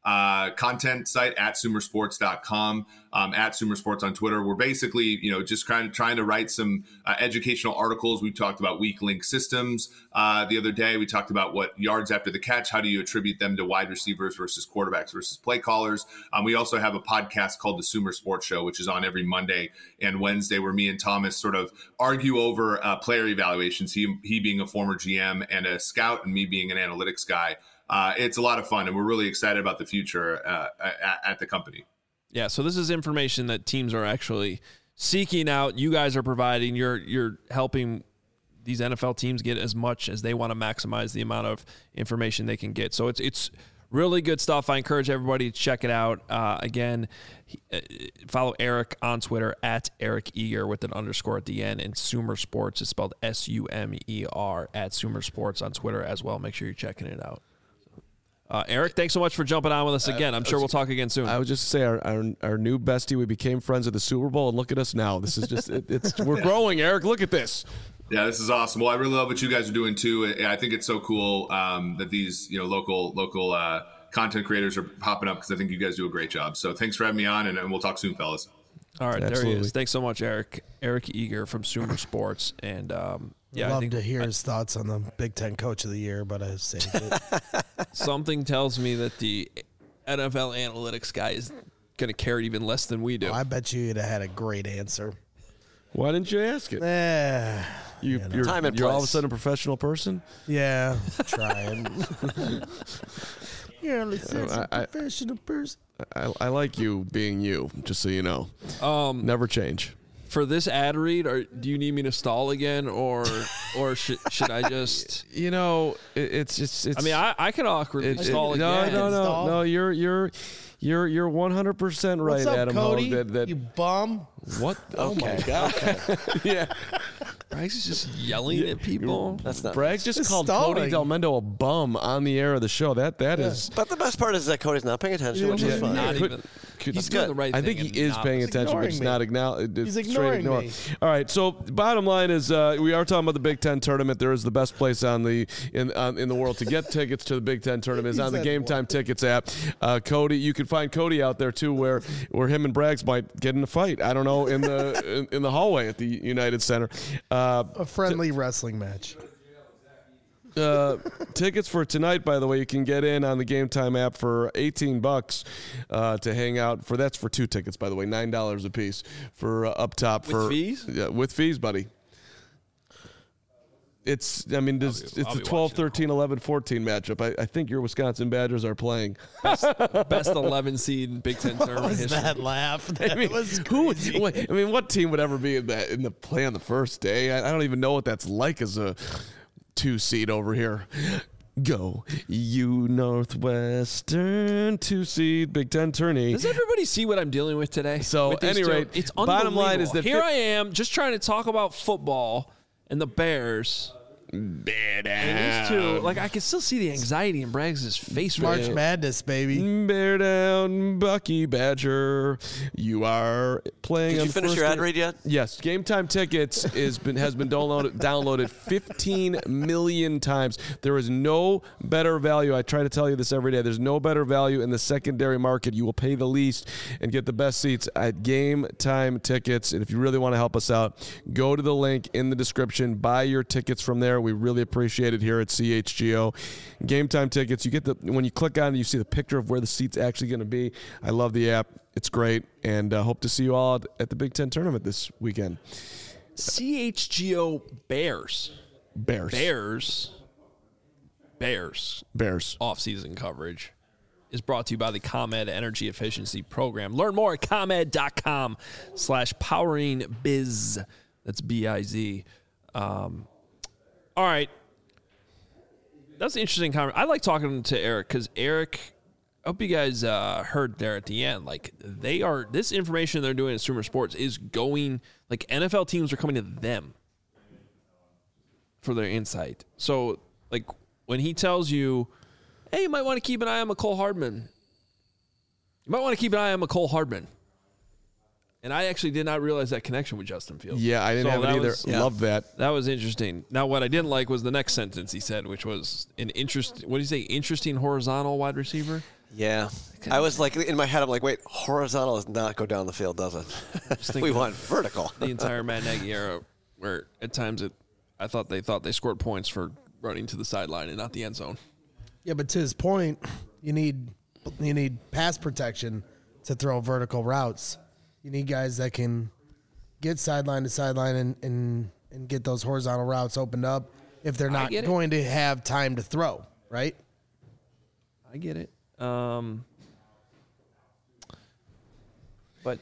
content site at sumersports.com, at sumersports on Twitter. We're basically, just trying to write some educational articles. We talked about weak link systems the other day. We talked about what yards after the catch, how do you attribute them to wide receivers versus quarterbacks versus play callers. We also have a podcast called The Sumer Sports Show, which is on every Monday and Wednesday, where me and Thomas sort of argue over player evaluations, he being a former GM and a scout, and me being an analytics guy. It's a lot of fun, and we're really excited about the future at the company. Yeah, so this is information that teams are actually seeking out. You guys are providing. You're helping these NFL teams get as much as they want to maximize the amount of information they can get. So it's really good stuff. I encourage everybody to check it out. Again, follow Eric on Twitter at Eric Eager with an underscore at the end, and Sumer Sports is spelled SUMER at Sumer Sports on Twitter as well. Make sure you're checking it out. Eric, thanks so much for jumping on with us again. I'm sure we'll talk again soon. I would just say our new bestie, we became friends at the Super Bowl, and look at us now. This is just we're growing, Eric. Look at this. Yeah, this is awesome. Well, I really love what you guys are doing too. I think it's so cool that these local content creators are popping up, because I think you guys do a great job. So thanks for having me on, and we'll talk soon, fellas. All right, Absolutely. There he is. Thanks so much, Eric. Eric Eager from Sumer Sports, and I'd love to hear his thoughts on the Big Ten Coach of the Year, but I saved it. Something tells me that the NFL analytics guy is going to care even less than we do. I bet you'd have had a great answer. Why didn't you ask it? You're Time and all of a place. sudden a professional person? Yeah, trying. You're only such a professional person. I like you being you, just so you know. Never change. For this ad read, do you need me to stall again, or should I just? It's. I mean, I can awkwardly stall again. No. You're 100% right, What's up, Adam. Cody? You bum. what? Oh my God. Yeah. Bragg's just yelling at people. That's not. Bragg just It's called stalling. Cody Del Mendo a bum on the air of the show. That is. But the best part is that Cody's not paying attention, which is fun. Not Could- even. could- He's doing the right I thing. think he and is not paying listening. attention, but ignoring he's me. not acknowledging. He's ignoring me. All right. So bottom line is, we are talking about the Big Ten tournament. There is the best place in the world to get tickets to the Big Ten tournament is on the Game Time Tickets app. Cody, you can find Cody out there too, where him and Braggs might get in a fight. I don't know, in the hallway at the United Center. A friendly wrestling match. Tickets for tonight, by the way, you can get in on the Game Time app for $18 to hang out. That's for 2 tickets, by the way, $9 a piece for up top. With fees? Yeah, with fees, buddy. It's the 12, 13, 11, 14 matchup. I think your Wisconsin Badgers are playing. Best 11 seed Big Ten tournament history. That laugh. That was crazy. What team would ever be in the play on the first day? I don't even know what that's like as a 2 seed over here. Go, you Northwestern 2 seed Big Ten tourney. Does everybody see what I'm dealing with today? So, With these any two? rate, it's bottom line is unbelievable. that here I am just trying to talk about football and the Bears. And these two, like, I can still see the anxiety in Braggs' face right March now. Madness, baby. Bear down, Bucky Badger. You are playing. Did on you finish first your ad day- read yet? Yes. Game Time Tickets has been downloaded 15 million times. There is no better value. I try to tell you this every day. There's no better value in the secondary market. You will pay the least and get the best seats at Game Time Tickets. And if you really want to help us out, go to the link in the description. Buy your tickets from there. We really appreciate it here at CHGO. Game Time Tickets. You get when you click on it, you see the picture of where the seat's actually going to be. I love the app. It's great, and hope to see you all at the Big Ten tournament this weekend. CHGO Bears. Bears. Off-season coverage is brought to you by the ComEd Energy Efficiency Program. Learn more at ComEd.com/poweringbiz. That's B-I-Z. All right. That's an interesting conversation. I like talking to Eric because Eric, I hope you guys heard there at the end. Like, this information they're doing at Sumer Sports is going, like, NFL teams are coming to them for their insight. So, like, when he tells you, hey, you might want to keep an eye on McCole Hardman. And I actually did not realize that connection with Justin Fields. Yeah, I didn't have it either. Love that. That was interesting. Now, what I didn't like was the next sentence he said, which was an interesting horizontal wide receiver. Yeah. I was like, in my head, I'm like, wait, horizontal does not go down the field, does it? We want vertical. The entire Matt Nagy era, where at times I thought they scored points for running to the sideline and not the end zone. Yeah, but to his point, you need pass protection to throw vertical routes. You need guys that can get sideline to sideline and get those horizontal routes opened up if they're not going to have time to throw, right? I get it. But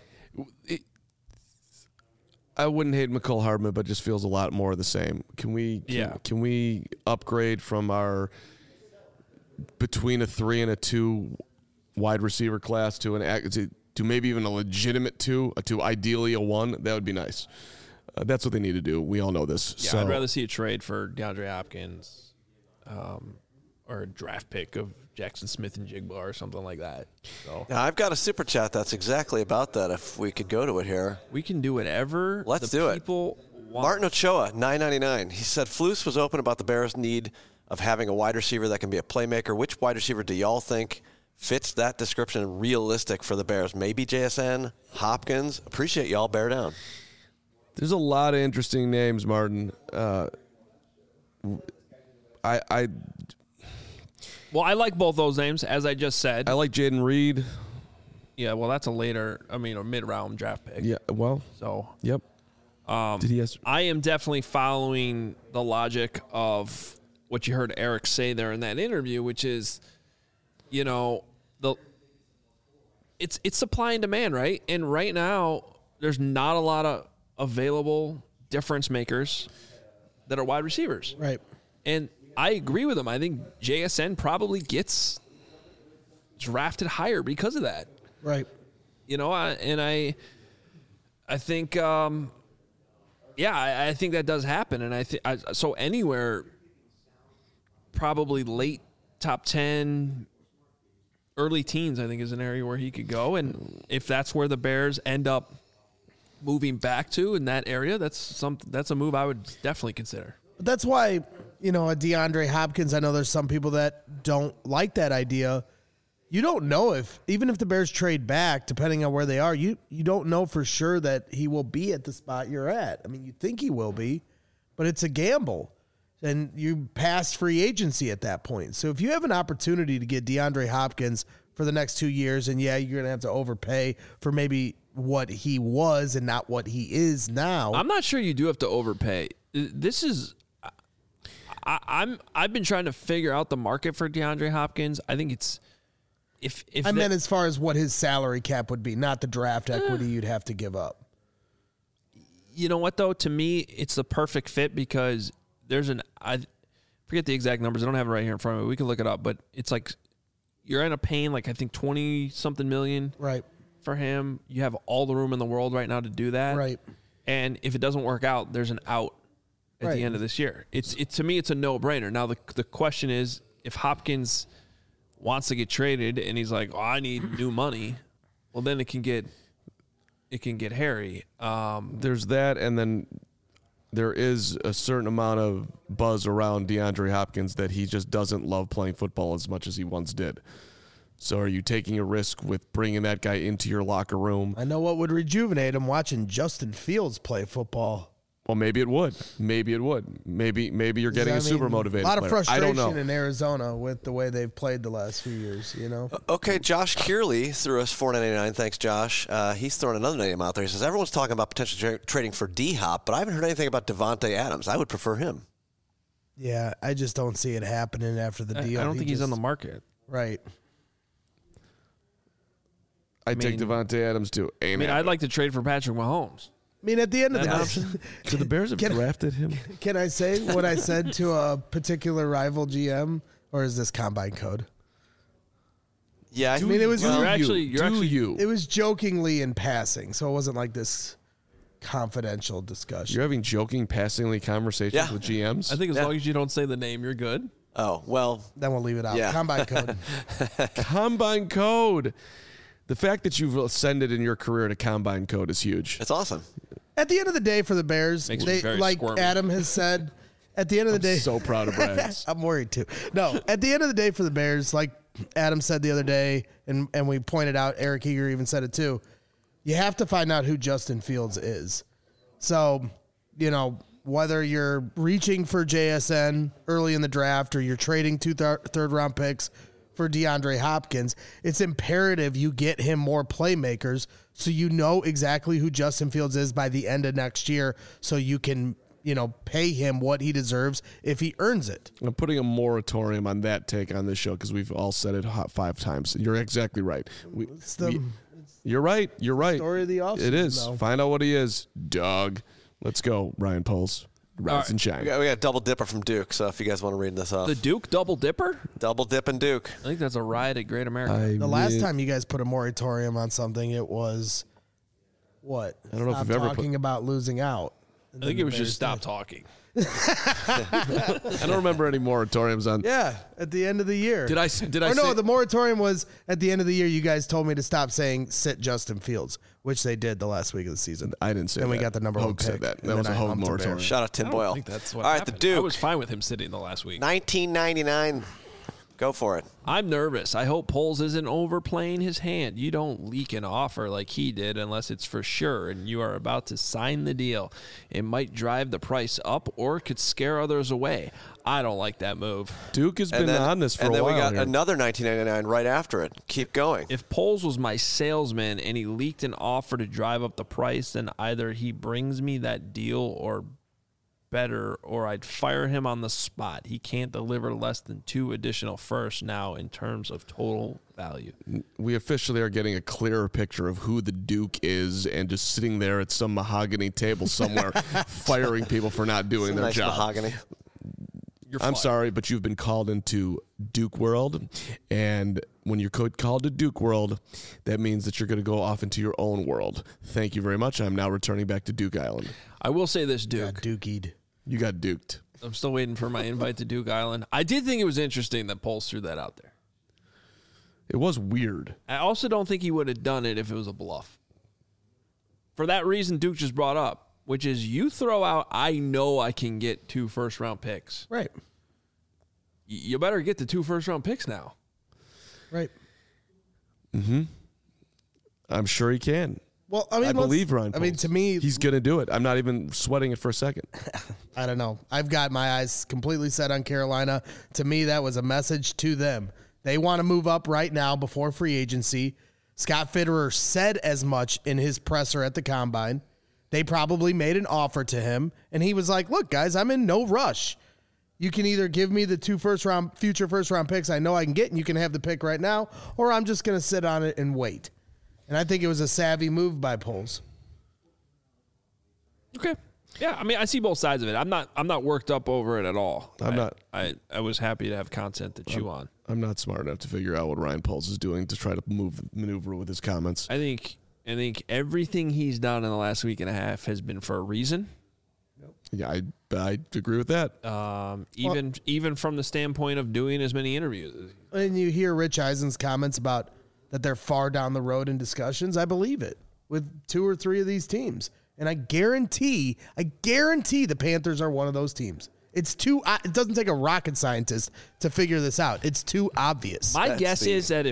I wouldn't hate McCole Hardman, but just feels a lot more of the same. Can we upgrade from our between a 3 and a 2 wide receiver class to maybe even a legitimate 2, to ideally a 1? That would be nice. That's what they need to do. We all know this. Yeah, I'd rather see a trade for DeAndre Hopkins, or a draft pick of Jackson Smith and Jigba or something like that. So Now, I've got a super chat that's exactly about that. If we could go to it here, we can do whatever. Let's do it. People want. Martin Ochoa, $9.99. He said Flus was open about the Bears' need of having a wide receiver that can be a playmaker. Which wide receiver do y'all think fits that description and realistic for the Bears? Maybe JSN, Hopkins. Appreciate y'all. Bear down. There's a lot of interesting names, Martin. Well, I like both those names, as I just said. I like Jaden Reed. Yeah, well, that's a mid-round draft pick. Yeah, well. So. Yep. Did he ask? I am definitely following the logic of what you heard Eric say there in that interview, which is, it's supply and demand, right? And right now, there's not a lot of available difference makers that are wide receivers. Right. And I agree with him. I think JSN probably gets drafted higher because of that. Right. I think, I think that does happen. And so anywhere, probably late top 10, early teens, I think is an area where he could go. And if that's where the Bears end up moving back to in that area, that's a move I would definitely consider. But that's why, a DeAndre Hopkins, I know there's some people that don't like that idea. You don't know even if the Bears trade back, depending on where they are, you don't know for sure that he will be at the spot you're at. I mean, you think he will be, but it's a gamble. And you pass free agency at that point. So if you have an opportunity to get DeAndre Hopkins for the next 2 years, and you're going to have to overpay for maybe what he was and not what he is now. I'm not sure you do have to overpay. I've been trying to figure out the market for DeAndre Hopkins. I think it's I meant as far as what his salary cap would be, not the draft equity you'd have to give up. You know what though? To me, it's the perfect fit because I forget the exact numbers. I don't have it right here in front of me. We can look it up, but it's like you're end up paying like I think 20-something million right for him. You have all the room in the world right now to do that. Right. And if it doesn't work out, there's an out at the end of this year. To me, it's a no-brainer. Now the question is, if Hopkins wants to get traded and he's like, I need new money, well then it can get hairy. There's that, and then there is a certain amount of buzz around DeAndre Hopkins that he just doesn't love playing football as much as he once did. So are you taking a risk with bringing that guy into your locker room? I know what would rejuvenate him, watching Justin Fields play football. Well, maybe it would. Maybe you're getting a super motivated player. A lot of frustration I don't know. in Arizona with the way they've played the last few years, Okay, Josh Kearley threw us $4.99. Thanks, Josh. He's throwing another name out there. He says, everyone's talking about potentially trading for D-Hop, but I haven't heard anything about Devontae Adams. I would prefer him. Yeah, I just don't see it happening after the deal. I don't think he's on the market. Right. I'd take Devontae Adams too. I'd like to trade for Patrick Mahomes. I mean, at the end of the day, so the Bears have drafted him. Can I say what I said to a particular rival GM, or is this combine code? Yeah, I mean, it was It was jokingly in passing, so it wasn't like this confidential discussion. You're having joking, passingly conversations with GMs. I think as long as you don't say the name, you're good. Oh well, then we'll leave it out. Yeah. Combine code. Combine code. The fact that you've ascended in your career to combine code is huge. It's awesome. At the end of the day, for the Bears, like squirmy. Adam has said, at the end of the day, so proud of Brad. I'm worried too. No, at the end of the day, for the Bears, like Adam said the other day, and we pointed out, Eric Eager even said it too, you have to find out who Justin Fields is. So, whether you're reaching for JSN early in the draft or you're trading 2 third-round picks for DeAndre Hopkins, it's imperative you get him more playmakers so you know exactly who Justin Fields is by the end of next year so you can, pay him what he deserves if he earns it. I'm putting a moratorium on that take on this show because we've all said it 5 times. You're exactly right. You're right. You're right. Story of the offseason. It is. Though. Find out what he is, Doug. Let's go, Ryan Poles. Rise and shine. We got a double dipper from Duke, so if you guys want to read this off. The Duke double dipper? Double dip and Duke. I think that's a riot at Great America. The last time you guys put a moratorium on something, it was what? I don't know if Stop we've ever talking about losing out. I think it was just stop talking. I don't remember any moratoriums on. Yeah, at the end of the year. Did I Or say no, the moratorium was at the end of the year. You guys told me to stop saying sit Justin Fields, which they did the last week of the season. I didn't say Then that. we got the number Hogue 1 said pick, that. and That was then a I Hogue humped the moratorium. Bears. Shout out Tim I Boyle. don't think that's what All right, happened. the Duke. I was fine with him sitting the last week. 1999. Go for it. I'm nervous. I hope Poles isn't overplaying his hand. You don't leak an offer like he did unless it's for sure and you are about to sign the deal. It might drive the price up or could scare others away. I don't like that move. Duke has been on this for a while. And then we got here. another 1999 right after it. Keep going. If Poles was my salesman and he leaked an offer to drive up the price, then either he brings me that deal or better, or I'd fire him on the spot. He can't deliver less than 2 additional firsts now in terms of total value. We officially are getting a clearer picture of who the Duke is and just sitting there at some mahogany table somewhere firing people for not doing their Nice job. mahogany. I'm sorry, but you've been called into Duke World, and when you're called to Duke World, that means that you're going to go off into your own world. Thank you very much. I'm now returning back to Duke Island. I will say this, Duke. Dookied. You got duked. I'm still waiting for my invite to Duke Island. I did think it was interesting that Poles threw that out there. It was weird. I also don't think he would have done it if it was a bluff. For that reason Duke just brought up, which is you throw out, I know I can get 2 first-round picks. Right. You better get the 2 first-round picks now. Right. I'm sure he can. Well, I mean, I believe Ryan Poles. I mean, to me, he's going to do it. I'm not even sweating it for a second. I don't know. I've got my eyes completely set on Carolina. To me, that was a message to them. They want to move up right now before free agency. Scott Fitterer said as much in his presser at the Combine. They probably made an offer to him, and he was like, look, guys, I'm in no rush. You can either give me the 2 future first-round picks I know I can get, and you can have the pick right now, or I'm just going to sit on it and wait. And I think it was a savvy move by Poles. Okay. Yeah, I mean, I see both sides of it. I'm not worked up over it at all. I'm not. I was happy to have content to chew on. I'm not smart enough to figure out what Ryan Poles is doing to try to maneuver with his comments. I think everything he's done in the last week and a half has been for a reason. Yeah, I agree with that. Even from the standpoint of doing as many interviews. And you hear Rich Eisen's comments about that they're far down the road in discussions. I believe it with 2 or 3 of these teams. And I guarantee the Panthers are one of those teams. It doesn't take a rocket scientist to figure this out. It's too obvious. My guess is that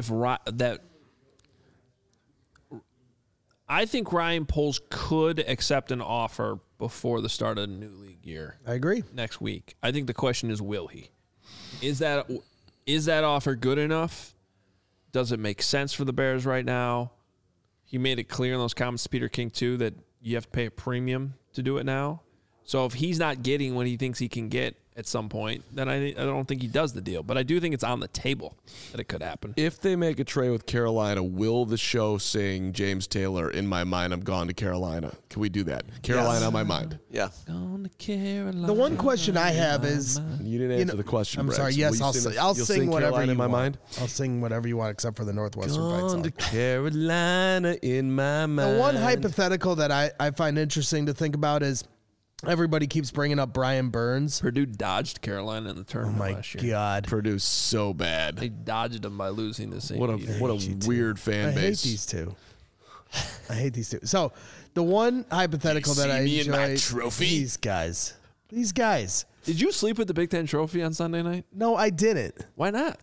I think Ryan Poles could accept an offer before the start of the new league year. I agree. Next week. I think the question is, will he? Is that offer good enough? Does it make sense for the Bears right now? He made it clear in those comments to Peter King, too, that you have to pay a premium to do it now. So if he's not getting what he thinks he can get at some point, then I don't think he does the deal. But I do think it's on the table that it could happen. If they make a trade with Carolina, will the show sing James Taylor, "In My Mind, I'm Gone to Carolina"? Can we do that? Carolina on my mind. Yeah. Gone to Carolina. The one question I have is, You didn't answer the question, I'm Braggs. sorry. Yes, Will you I'll you'll sing whatever Carolina you in my want. mind? I'll sing whatever you want, except for the Northwestern fight Gone song. to Carolina in my mind. The one hypothetical that I find interesting to think about is everybody keeps bringing up Brian Burns. Purdue dodged Carolina in the tournament last year. God. Purdue's so bad. They dodged them by losing to St. What a Peter. weird fan I hate base. these two. I hate these two. So the one hypothetical that I see me in my enjoy, trophy? These guys. Did you sleep with the Big Ten trophy on Sunday night? No, I didn't. Why not?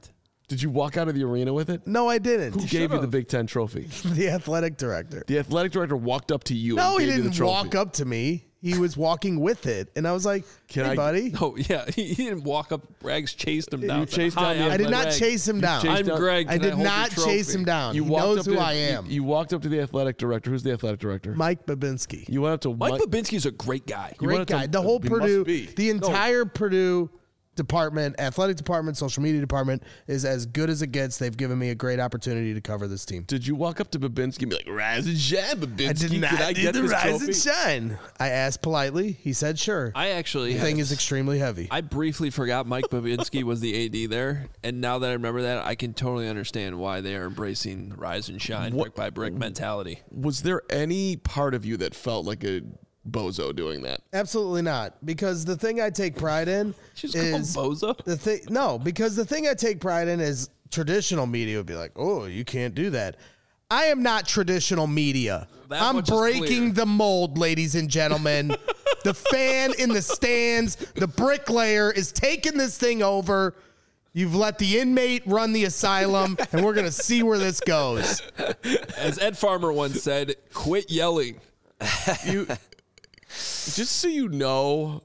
Did you walk out of the arena with it? No, I didn't. Who gave you the Big Ten trophy? The athletic director. The athletic director walked up to you. No, and he gave you the didn't trophy. walk up to me. He was walking with it, and I was like, Can "Hey, I- buddy." Oh yeah, he didn't walk up. Brags chased him down. chased Hi, down the- I'm I did not Greg. chase him down. chased I'm down- Greg. I Can did hold your not chase trophy? him down. You He walked knows up who to, I am. You walked up to the athletic director. Who's the athletic director? Mike Babinski. You went up to Mike Babinski's a great guy. You went Great up to- guy. The whole he must Purdue, be. the entire Purdue department, athletic department, social media department is as good as it gets. They've given me a great opportunity to cover this team. Did you walk up to Babinski and be like, "Rise and shine, Babinski"? I did not Can I do get the this rise trophy? and shine. I asked politely. He said, "Sure." I actually The thing is extremely heavy. I briefly forgot Mike Babinski was the AD there, and now that I remember that, I can totally understand why they are embracing rise and shine, brick by brick mentality. Was there any part of you that felt like a bozo doing that? Absolutely not. Because the thing I take pride in Just call him is bozo. the thing. No, because the thing I take pride in is traditional media would be like, "Oh, you can't do that." I am not traditional media. That I'm much is breaking clear. the mold, ladies and gentlemen. The fan in the stands, the bricklayer is taking this thing over. You've let the inmate run the asylum, and we're going to see where this goes. As Ed Farmer once said, "Quit yelling." You, just so you know,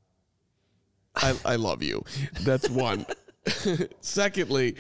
I love you. That's one. Secondly,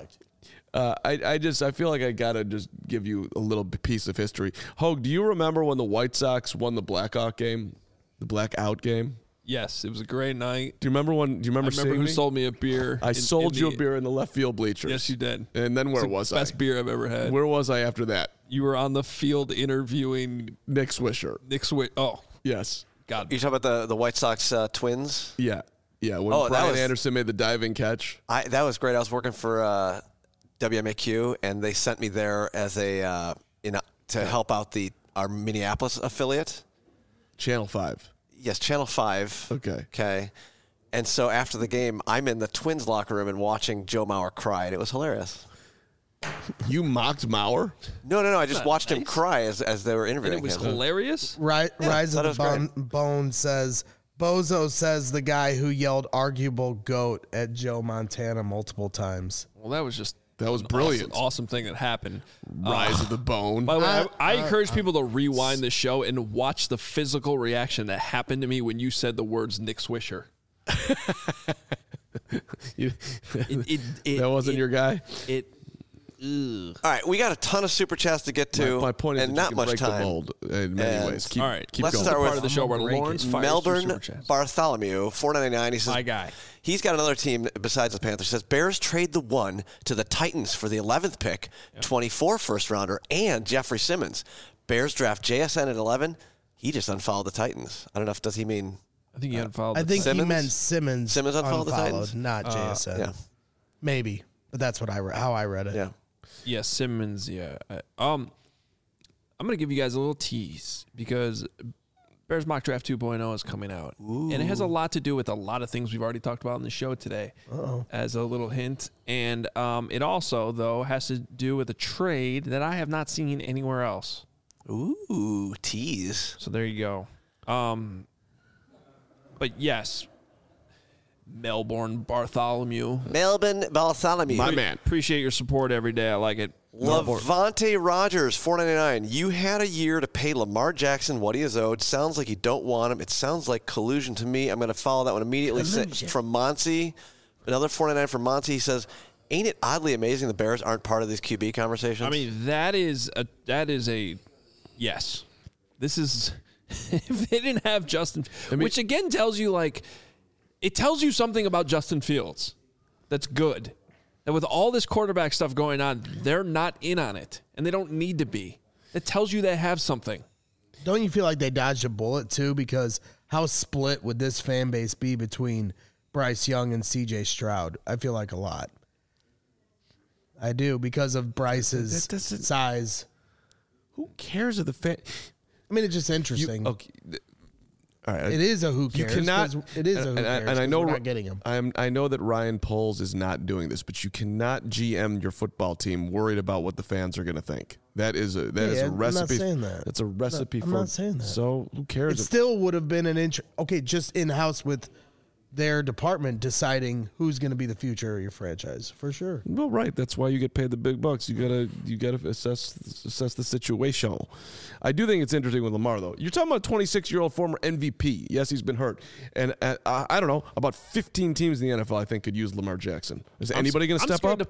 I feel like I gotta just give you a little piece of history. Hogue, do you remember when the White Sox won the blackout game? Yes, it was a great night. Do you remember I seeing remember who me? sold me a beer. I sold you a beer in the left field bleachers. Yes, you did. And then where It's the was best I? beer I've ever had. Where was I after that? You were on the field interviewing Nick Swisher. Nick Swift. Oh, Yes. God. You talking about the White Sox Twins? Yeah. Yeah. When Oh, that Brian was- Anderson made the diving catch. That was great. I was working for WMAQ, and they sent me there as a to help out our Minneapolis affiliate. Channel 5. Yes, Channel 5. Okay. Okay. And so after the game, I'm in the Twins locker room and watching Joe Mauer cry, and it was hilarious. You mocked Mauer? No. I just watched him nice. cry as they were And interviewing it was him. hilarious. Rise thought of it was the Bone says, Bozo says the guy who yelled arguable goat at Joe Montana multiple times. Well, that was just That was an brilliant. Awesome thing that happened. Rise of the Bone. By the way, I encourage people to rewind the show and watch the physical reaction that happened to me when you said the words Nick Swisher. You- It, that wasn't your guy? All right, we got a ton of super chats to get to, My point is and that not you can much break the time. mold in many And- ways. Keep, All right, keep let's going. start part with of the show where break it. Lawrence fires Melbourne super chats. Bartholomew, $4.99. He says, My guy. He's got another team besides the Panthers. He says Bears trade the 1 to the Titans for the 11th pick, 24 first rounder, and Jeffrey Simmons. Bears draft JSN at 11. He just unfollowed the Titans. I don't know if does he mean I think he unfollowed. I the think he Simmons? meant Simmons. Simmons unfollowed the Titans? not JSN. yeah. Maybe, but that's what how I read it. Yeah. Yeah, Simmons. Yeah. I'm gonna give you guys a little tease because Bears Mock Draft 2.0 is coming out, and it has a lot to do with a lot of things we've already talked about in the show today. As a little hint, and it also though has to do with a trade that I have not seen anywhere else. Ooh, tease. So there you go. But yes, Melbourne Bartholomew. Melbourne Bartholomew. My man. Appreciate your support every day. I like it. Levante Rogers, $4.99. You had a year to pay Lamar Jackson what he is owed. Sounds like you don't want him. It sounds like collusion to me. I'm going to follow that one immediately. From Monty, another $4.99 from Monty. He says, ain't it oddly amazing the Bears aren't part of these QB conversations? I mean, that is a yes. This is if they didn't have Justin, which again tells you it tells you something about Justin Fields that's good. That with all this quarterback stuff going on, they're not in on it, and they don't need to be. It tells you they have something. Don't you feel like they dodged a bullet too? Because how split would this fan base be between Bryce Young and C.J. Stroud? I feel like a lot. I do because of Bryce's That doesn't- size. Who cares if the fan? I mean, it's just interesting. Okay. All right. It is a who You cares. cannot. 'cause it is a who cares. And I 'cause know we're not getting him. I know that Ryan Poles is not doing this, but you cannot GM your football team worried about what the fans are going to think. That is a I'm not recipe. saying that. That's a recipe I'm for. not saying that. So who cares? It still would have been an okay, just in house with their department deciding who's going to be the future of your franchise, for sure. Well, right. That's why you get paid the big bucks. You gotta assess the situation. I do think it's interesting with Lamar, though. You're talking about a 26-year-old former MVP. Yes, he's been hurt, and I don't know, about 15 teams in the NFL I think could use Lamar Jackson. Is anybody going to step up?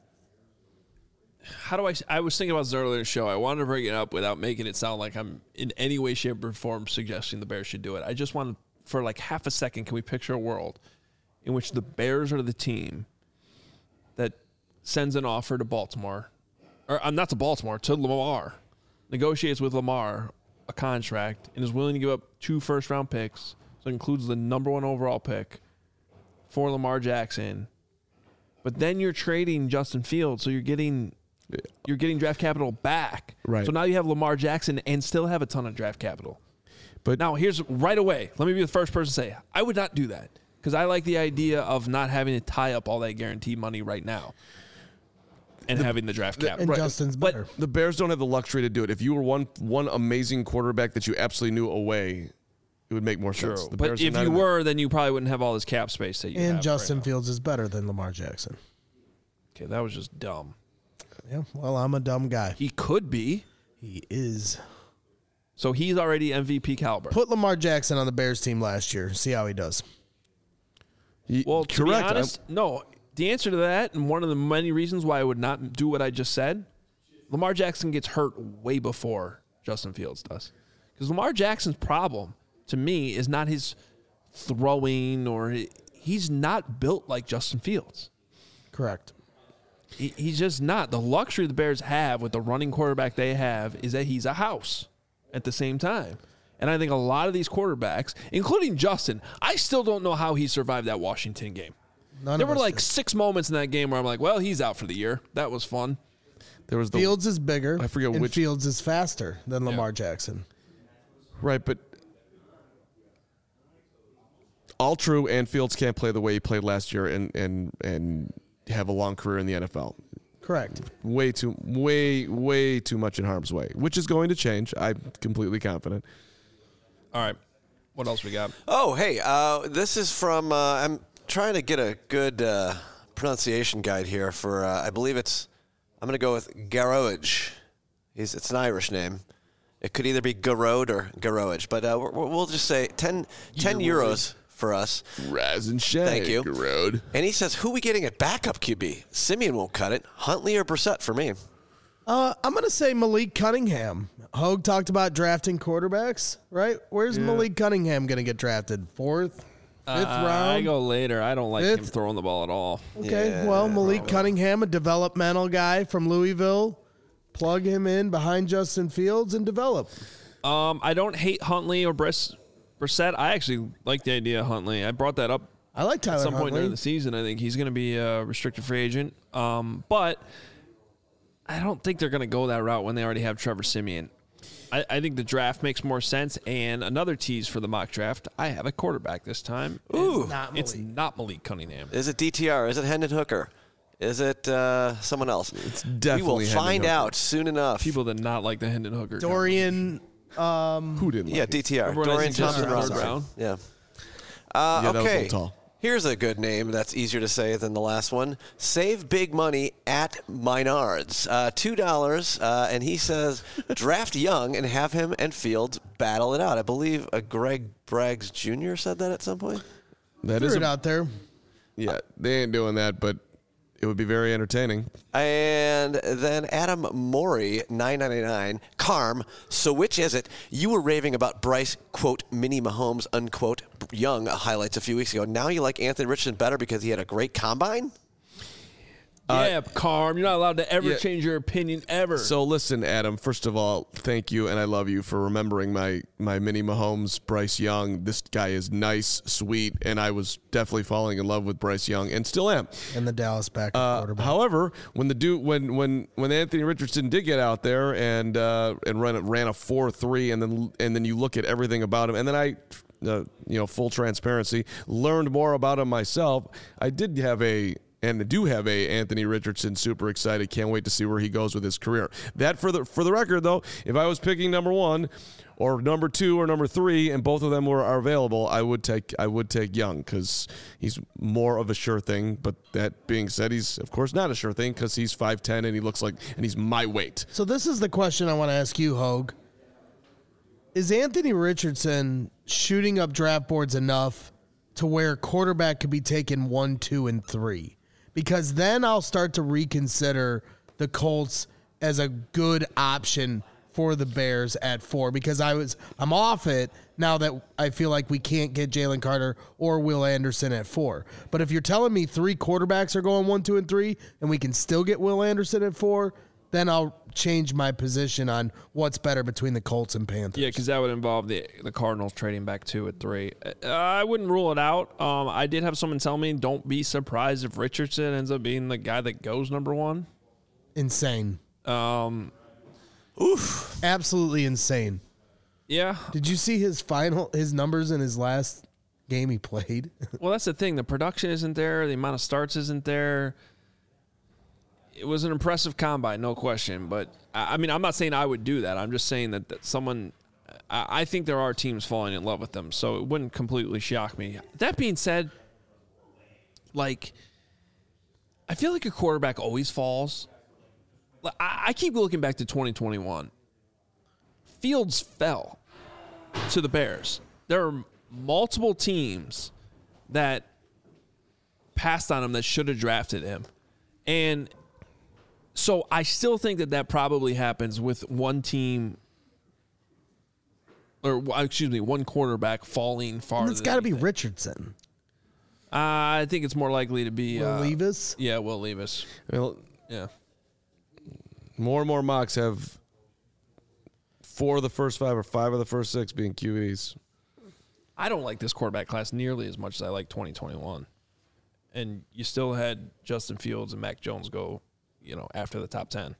I was thinking about this earlier in the show. I wanted to bring it up without making it sound like I'm in any way, shape, or form suggesting the Bears should do it. I just wanted, for like half a second, can we picture a world in which the Bears are the team that sends an offer to Baltimore, or not to Baltimore, to Lamar, negotiates with Lamar a contract, and is willing to give up 2 first-round picks, so it includes the number 1 overall pick for Lamar Jackson. But then you're trading Justin Fields, so you're getting draft capital back. Right. So now you have Lamar Jackson and still have a ton of draft capital. But now here's right away. Let me be the first person to say I would not do that because I like the idea of not having to tie up all that guaranteed money right now and having the draft capital. And Justin's better. The Bears don't have the luxury to do it. If you were one amazing quarterback that you absolutely knew away, it would make more sense. The But Bears are if not you in were, then you probably wouldn't have all this cap space that you have. And Justin right now. Fields is better than Lamar Jackson. Okay, that was just dumb. Yeah, well, I'm a dumb guy. He could be. He is. So he's already MVP caliber. Put Lamar Jackson on the Bears team last year. See how he does. Well, to be correct. honest, no. The answer to that, and one of the many reasons why I would not do what I just said, Lamar Jackson gets hurt way before Justin Fields does. Because Lamar Jackson's problem, to me, is not his throwing or he's not built like Justin Fields. Correct. He's just not. The luxury the Bears have with the running quarterback they have is that he's a house at the same time. And I think a lot of these quarterbacks, including Justin, I still don't know how he survived that Washington game. There were like 6 moments in that game where I'm like, well, he's out for the year. That was fun. There was Fields is bigger. I forget and which. Fields is faster than Lamar Jackson. Right, but all true, and Fields can't play the way he played last year and have a long career in the NFL. Correct. Way too much in harm's way, which is going to change. I'm completely confident. All right. What else we got? Oh, hey, this is from, I'm trying to get a good pronunciation guide here for, I believe I'm going to go with Garroage. It's an Irish name. It could either be Garrode or Garroage, but we'll just say 10 euros for us. Rise and shine. Thank you. Road. And he says, who we getting at backup QB? Simeon won't cut it. Huntley or Brissett for me. I'm going to say Malik Cunningham. Hogue talked about drafting quarterbacks, right? Where's Malik Cunningham going to get drafted? 4th, 5th round? I go later. I don't like him 5th? throwing the ball at all. Okay, well, Malik Cunningham, a developmental guy from Louisville. Plug him in behind Justin Fields and develop. I don't hate Huntley or Brissett. I actually like the idea of Huntley. I brought that up I like Tyler at some point Huntley. during the season. I think he's going to be a restricted free agent. But I don't think they're going to go that route when they already have Trevor Siemian. I think the draft makes more sense. And another tease for the mock draft, I have a quarterback this time. Ooh. It's not Malik Cunningham. Is it DTR? Is it Hendon Hooker? Is it someone else? It's definitely We will find Hendon Hooker. out soon enough. People did not like the Hendon Hooker. Dorian. Who didn't? Yeah, Like it? DTR. Everyone Dorian has him Thompson third Robinson. round. Yeah. Yeah, that was a Okay. little tall. Here's a good name that's easier to say than the last one. Save big money at Menards. $2, and he says draft young and have him and Fields battle it out. I believe Greg Braggs Jr. said that at some point. That Threw is it out there. Yeah, they ain't doing that, but it would be very entertaining. And then Adam Morey, $9.99. Carm, so which is it? You were raving about Bryce, quote, mini Mahomes, unquote, young highlights a few weeks ago. Now you like Anthony Richardson better because he had a great combine? Yeah, Carm, you're not allowed to ever yeah. change your opinion ever. So listen, Adam, first of all, thank you, and I love you for remembering my mini Mahomes, Bryce Young. This guy is nice, sweet, and I was definitely falling in love with Bryce Young, and still am. And the Dallas backup quarterback. However, when Anthony Richardson did get out there and ran a 4.3, and then you look at everything about him, and then I, full transparency, learned more about him myself. I did have a and do have a Anthony Richardson. Super excited. Can't wait to see where he goes with his career. That for the record, though, if I was picking number 1 or number 2 or number 3, and both of them are available, I would take Young because he's more of a sure thing. But that being said, he's of course not a sure thing because he's 5'10" and he looks like, and he's my weight. So this is the question I want to ask you, Hogue. Is Anthony Richardson shooting up draft boards enough to where quarterback could be taken 1, 2, and 3? Because then I'll start to reconsider the Colts as a good option for the Bears at 4, because I'm off it now that I feel like we can't get Jalen Carter or Will Anderson at 4. But if you're telling me 3 quarterbacks are going 1, 2, and 3, and we can still get Will Anderson at 4, then I'll change my position on what's better between the Colts and Panthers. Yeah, because that would involve the Cardinals trading back 2 at 3. I wouldn't rule it out. I did have someone tell me, don't be surprised if Richardson ends up being the guy that goes number 1. Insane. Absolutely insane. Yeah. Did you see his numbers in his last game he played? Well, that's the thing. The production isn't there. The amount of starts isn't there. It was an impressive combine, no question. But, I mean, I'm not saying I would do that. I'm just saying that someone – I think there are teams falling in love with them, so it wouldn't completely shock me. That being said, like, I feel like a quarterback always falls. I keep looking back to 2021. Fields fell to the Bears. There are multiple teams that passed on him that should have drafted him. And so I still think that probably happens with one team, or excuse me, one quarterback falling farther. It's got to be Richardson. I think it's more likely to be Will Levis. Yeah, Will Levis. Well, Yeah. more and more mocks have 4 of the first 5 or 5 of the first 6 being QBs. I don't like this quarterback class nearly as much as I like 2021. And you still had Justin Fields and Mac Jones go, after the top 10.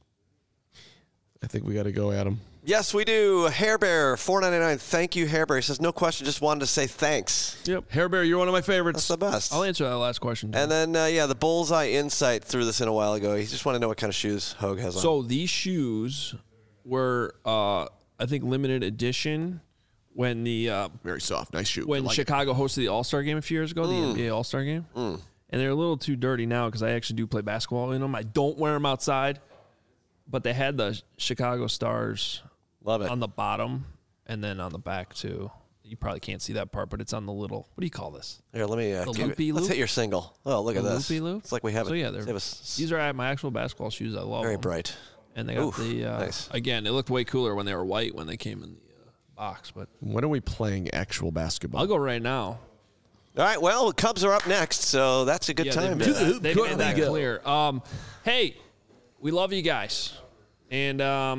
I think we got to go, Adam. Yes, we do. Hair Bear, $4.99. Thank you, Hair Bear. He says, no question, just wanted to say thanks. Yep. Hair Bear, you're one of my favorites. That's the best. I'll answer that last question. And then, the Bullseye Insight threw this in a while ago. He just wanted to know what kind of shoes Hogue has on. So these shoes were, I think, limited edition when the Very soft, nice shoe. when I like Chicago hosted the All-Star game a few years ago, the NBA All-Star game. And they're a little too dirty now because I actually do play basketball in them. I don't wear them outside, but they had the Chicago Stars Love it. on the bottom and then on the back too. You probably can't see that part, but it's on the little, what do you call this? Here, let me loopy let's loop? hit your single. Oh, look at The this. loopy loop? It's like we have So it. yeah, they have a these are my actual basketball shoes. I love very them. bright. And they got Oof, the, nice. again, it looked way cooler when they were white when they came in the box, but When are we playing actual basketball? I'll go right now. All right, well, the Cubs are up next, so that's a good Yeah, time. They made that clear. Hey, we love you guys. And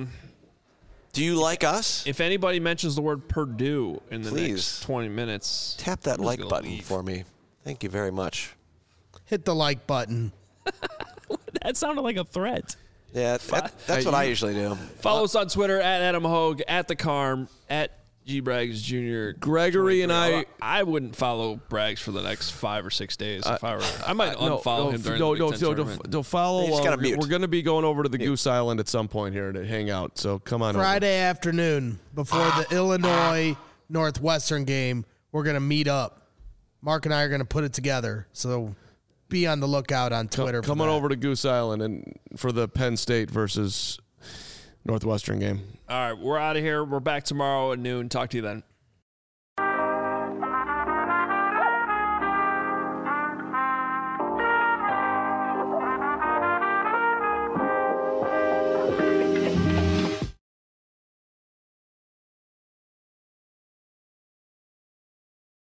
Do you like us? if anybody mentions the word Purdue in the Please. next 20 minutes, Tap that I'm just like gonna button leave. for me. Thank you very much. Hit the like button. That sounded like a threat. Yeah, that's what I usually do. Follow us on Twitter at Adam Hogue, at The Carm, at G Braggs Jr. Gregory and 23. I- I wouldn't follow Braggs for the next 5 or 6 days. If I were, I might unfollow him during the Big Ten tournament. Don't follow. You just gotta mute. We're going to be going over to the Goose Island at some point here to hang out. So come on Friday afternoon before the Illinois Northwestern game, we're going to meet up. Mark and I are going to put it together. So be on the lookout on Twitter. Come on over to Goose Island and for the Penn State versus Northwestern game. All right, we're out of here. We're back tomorrow at noon. Talk to you then.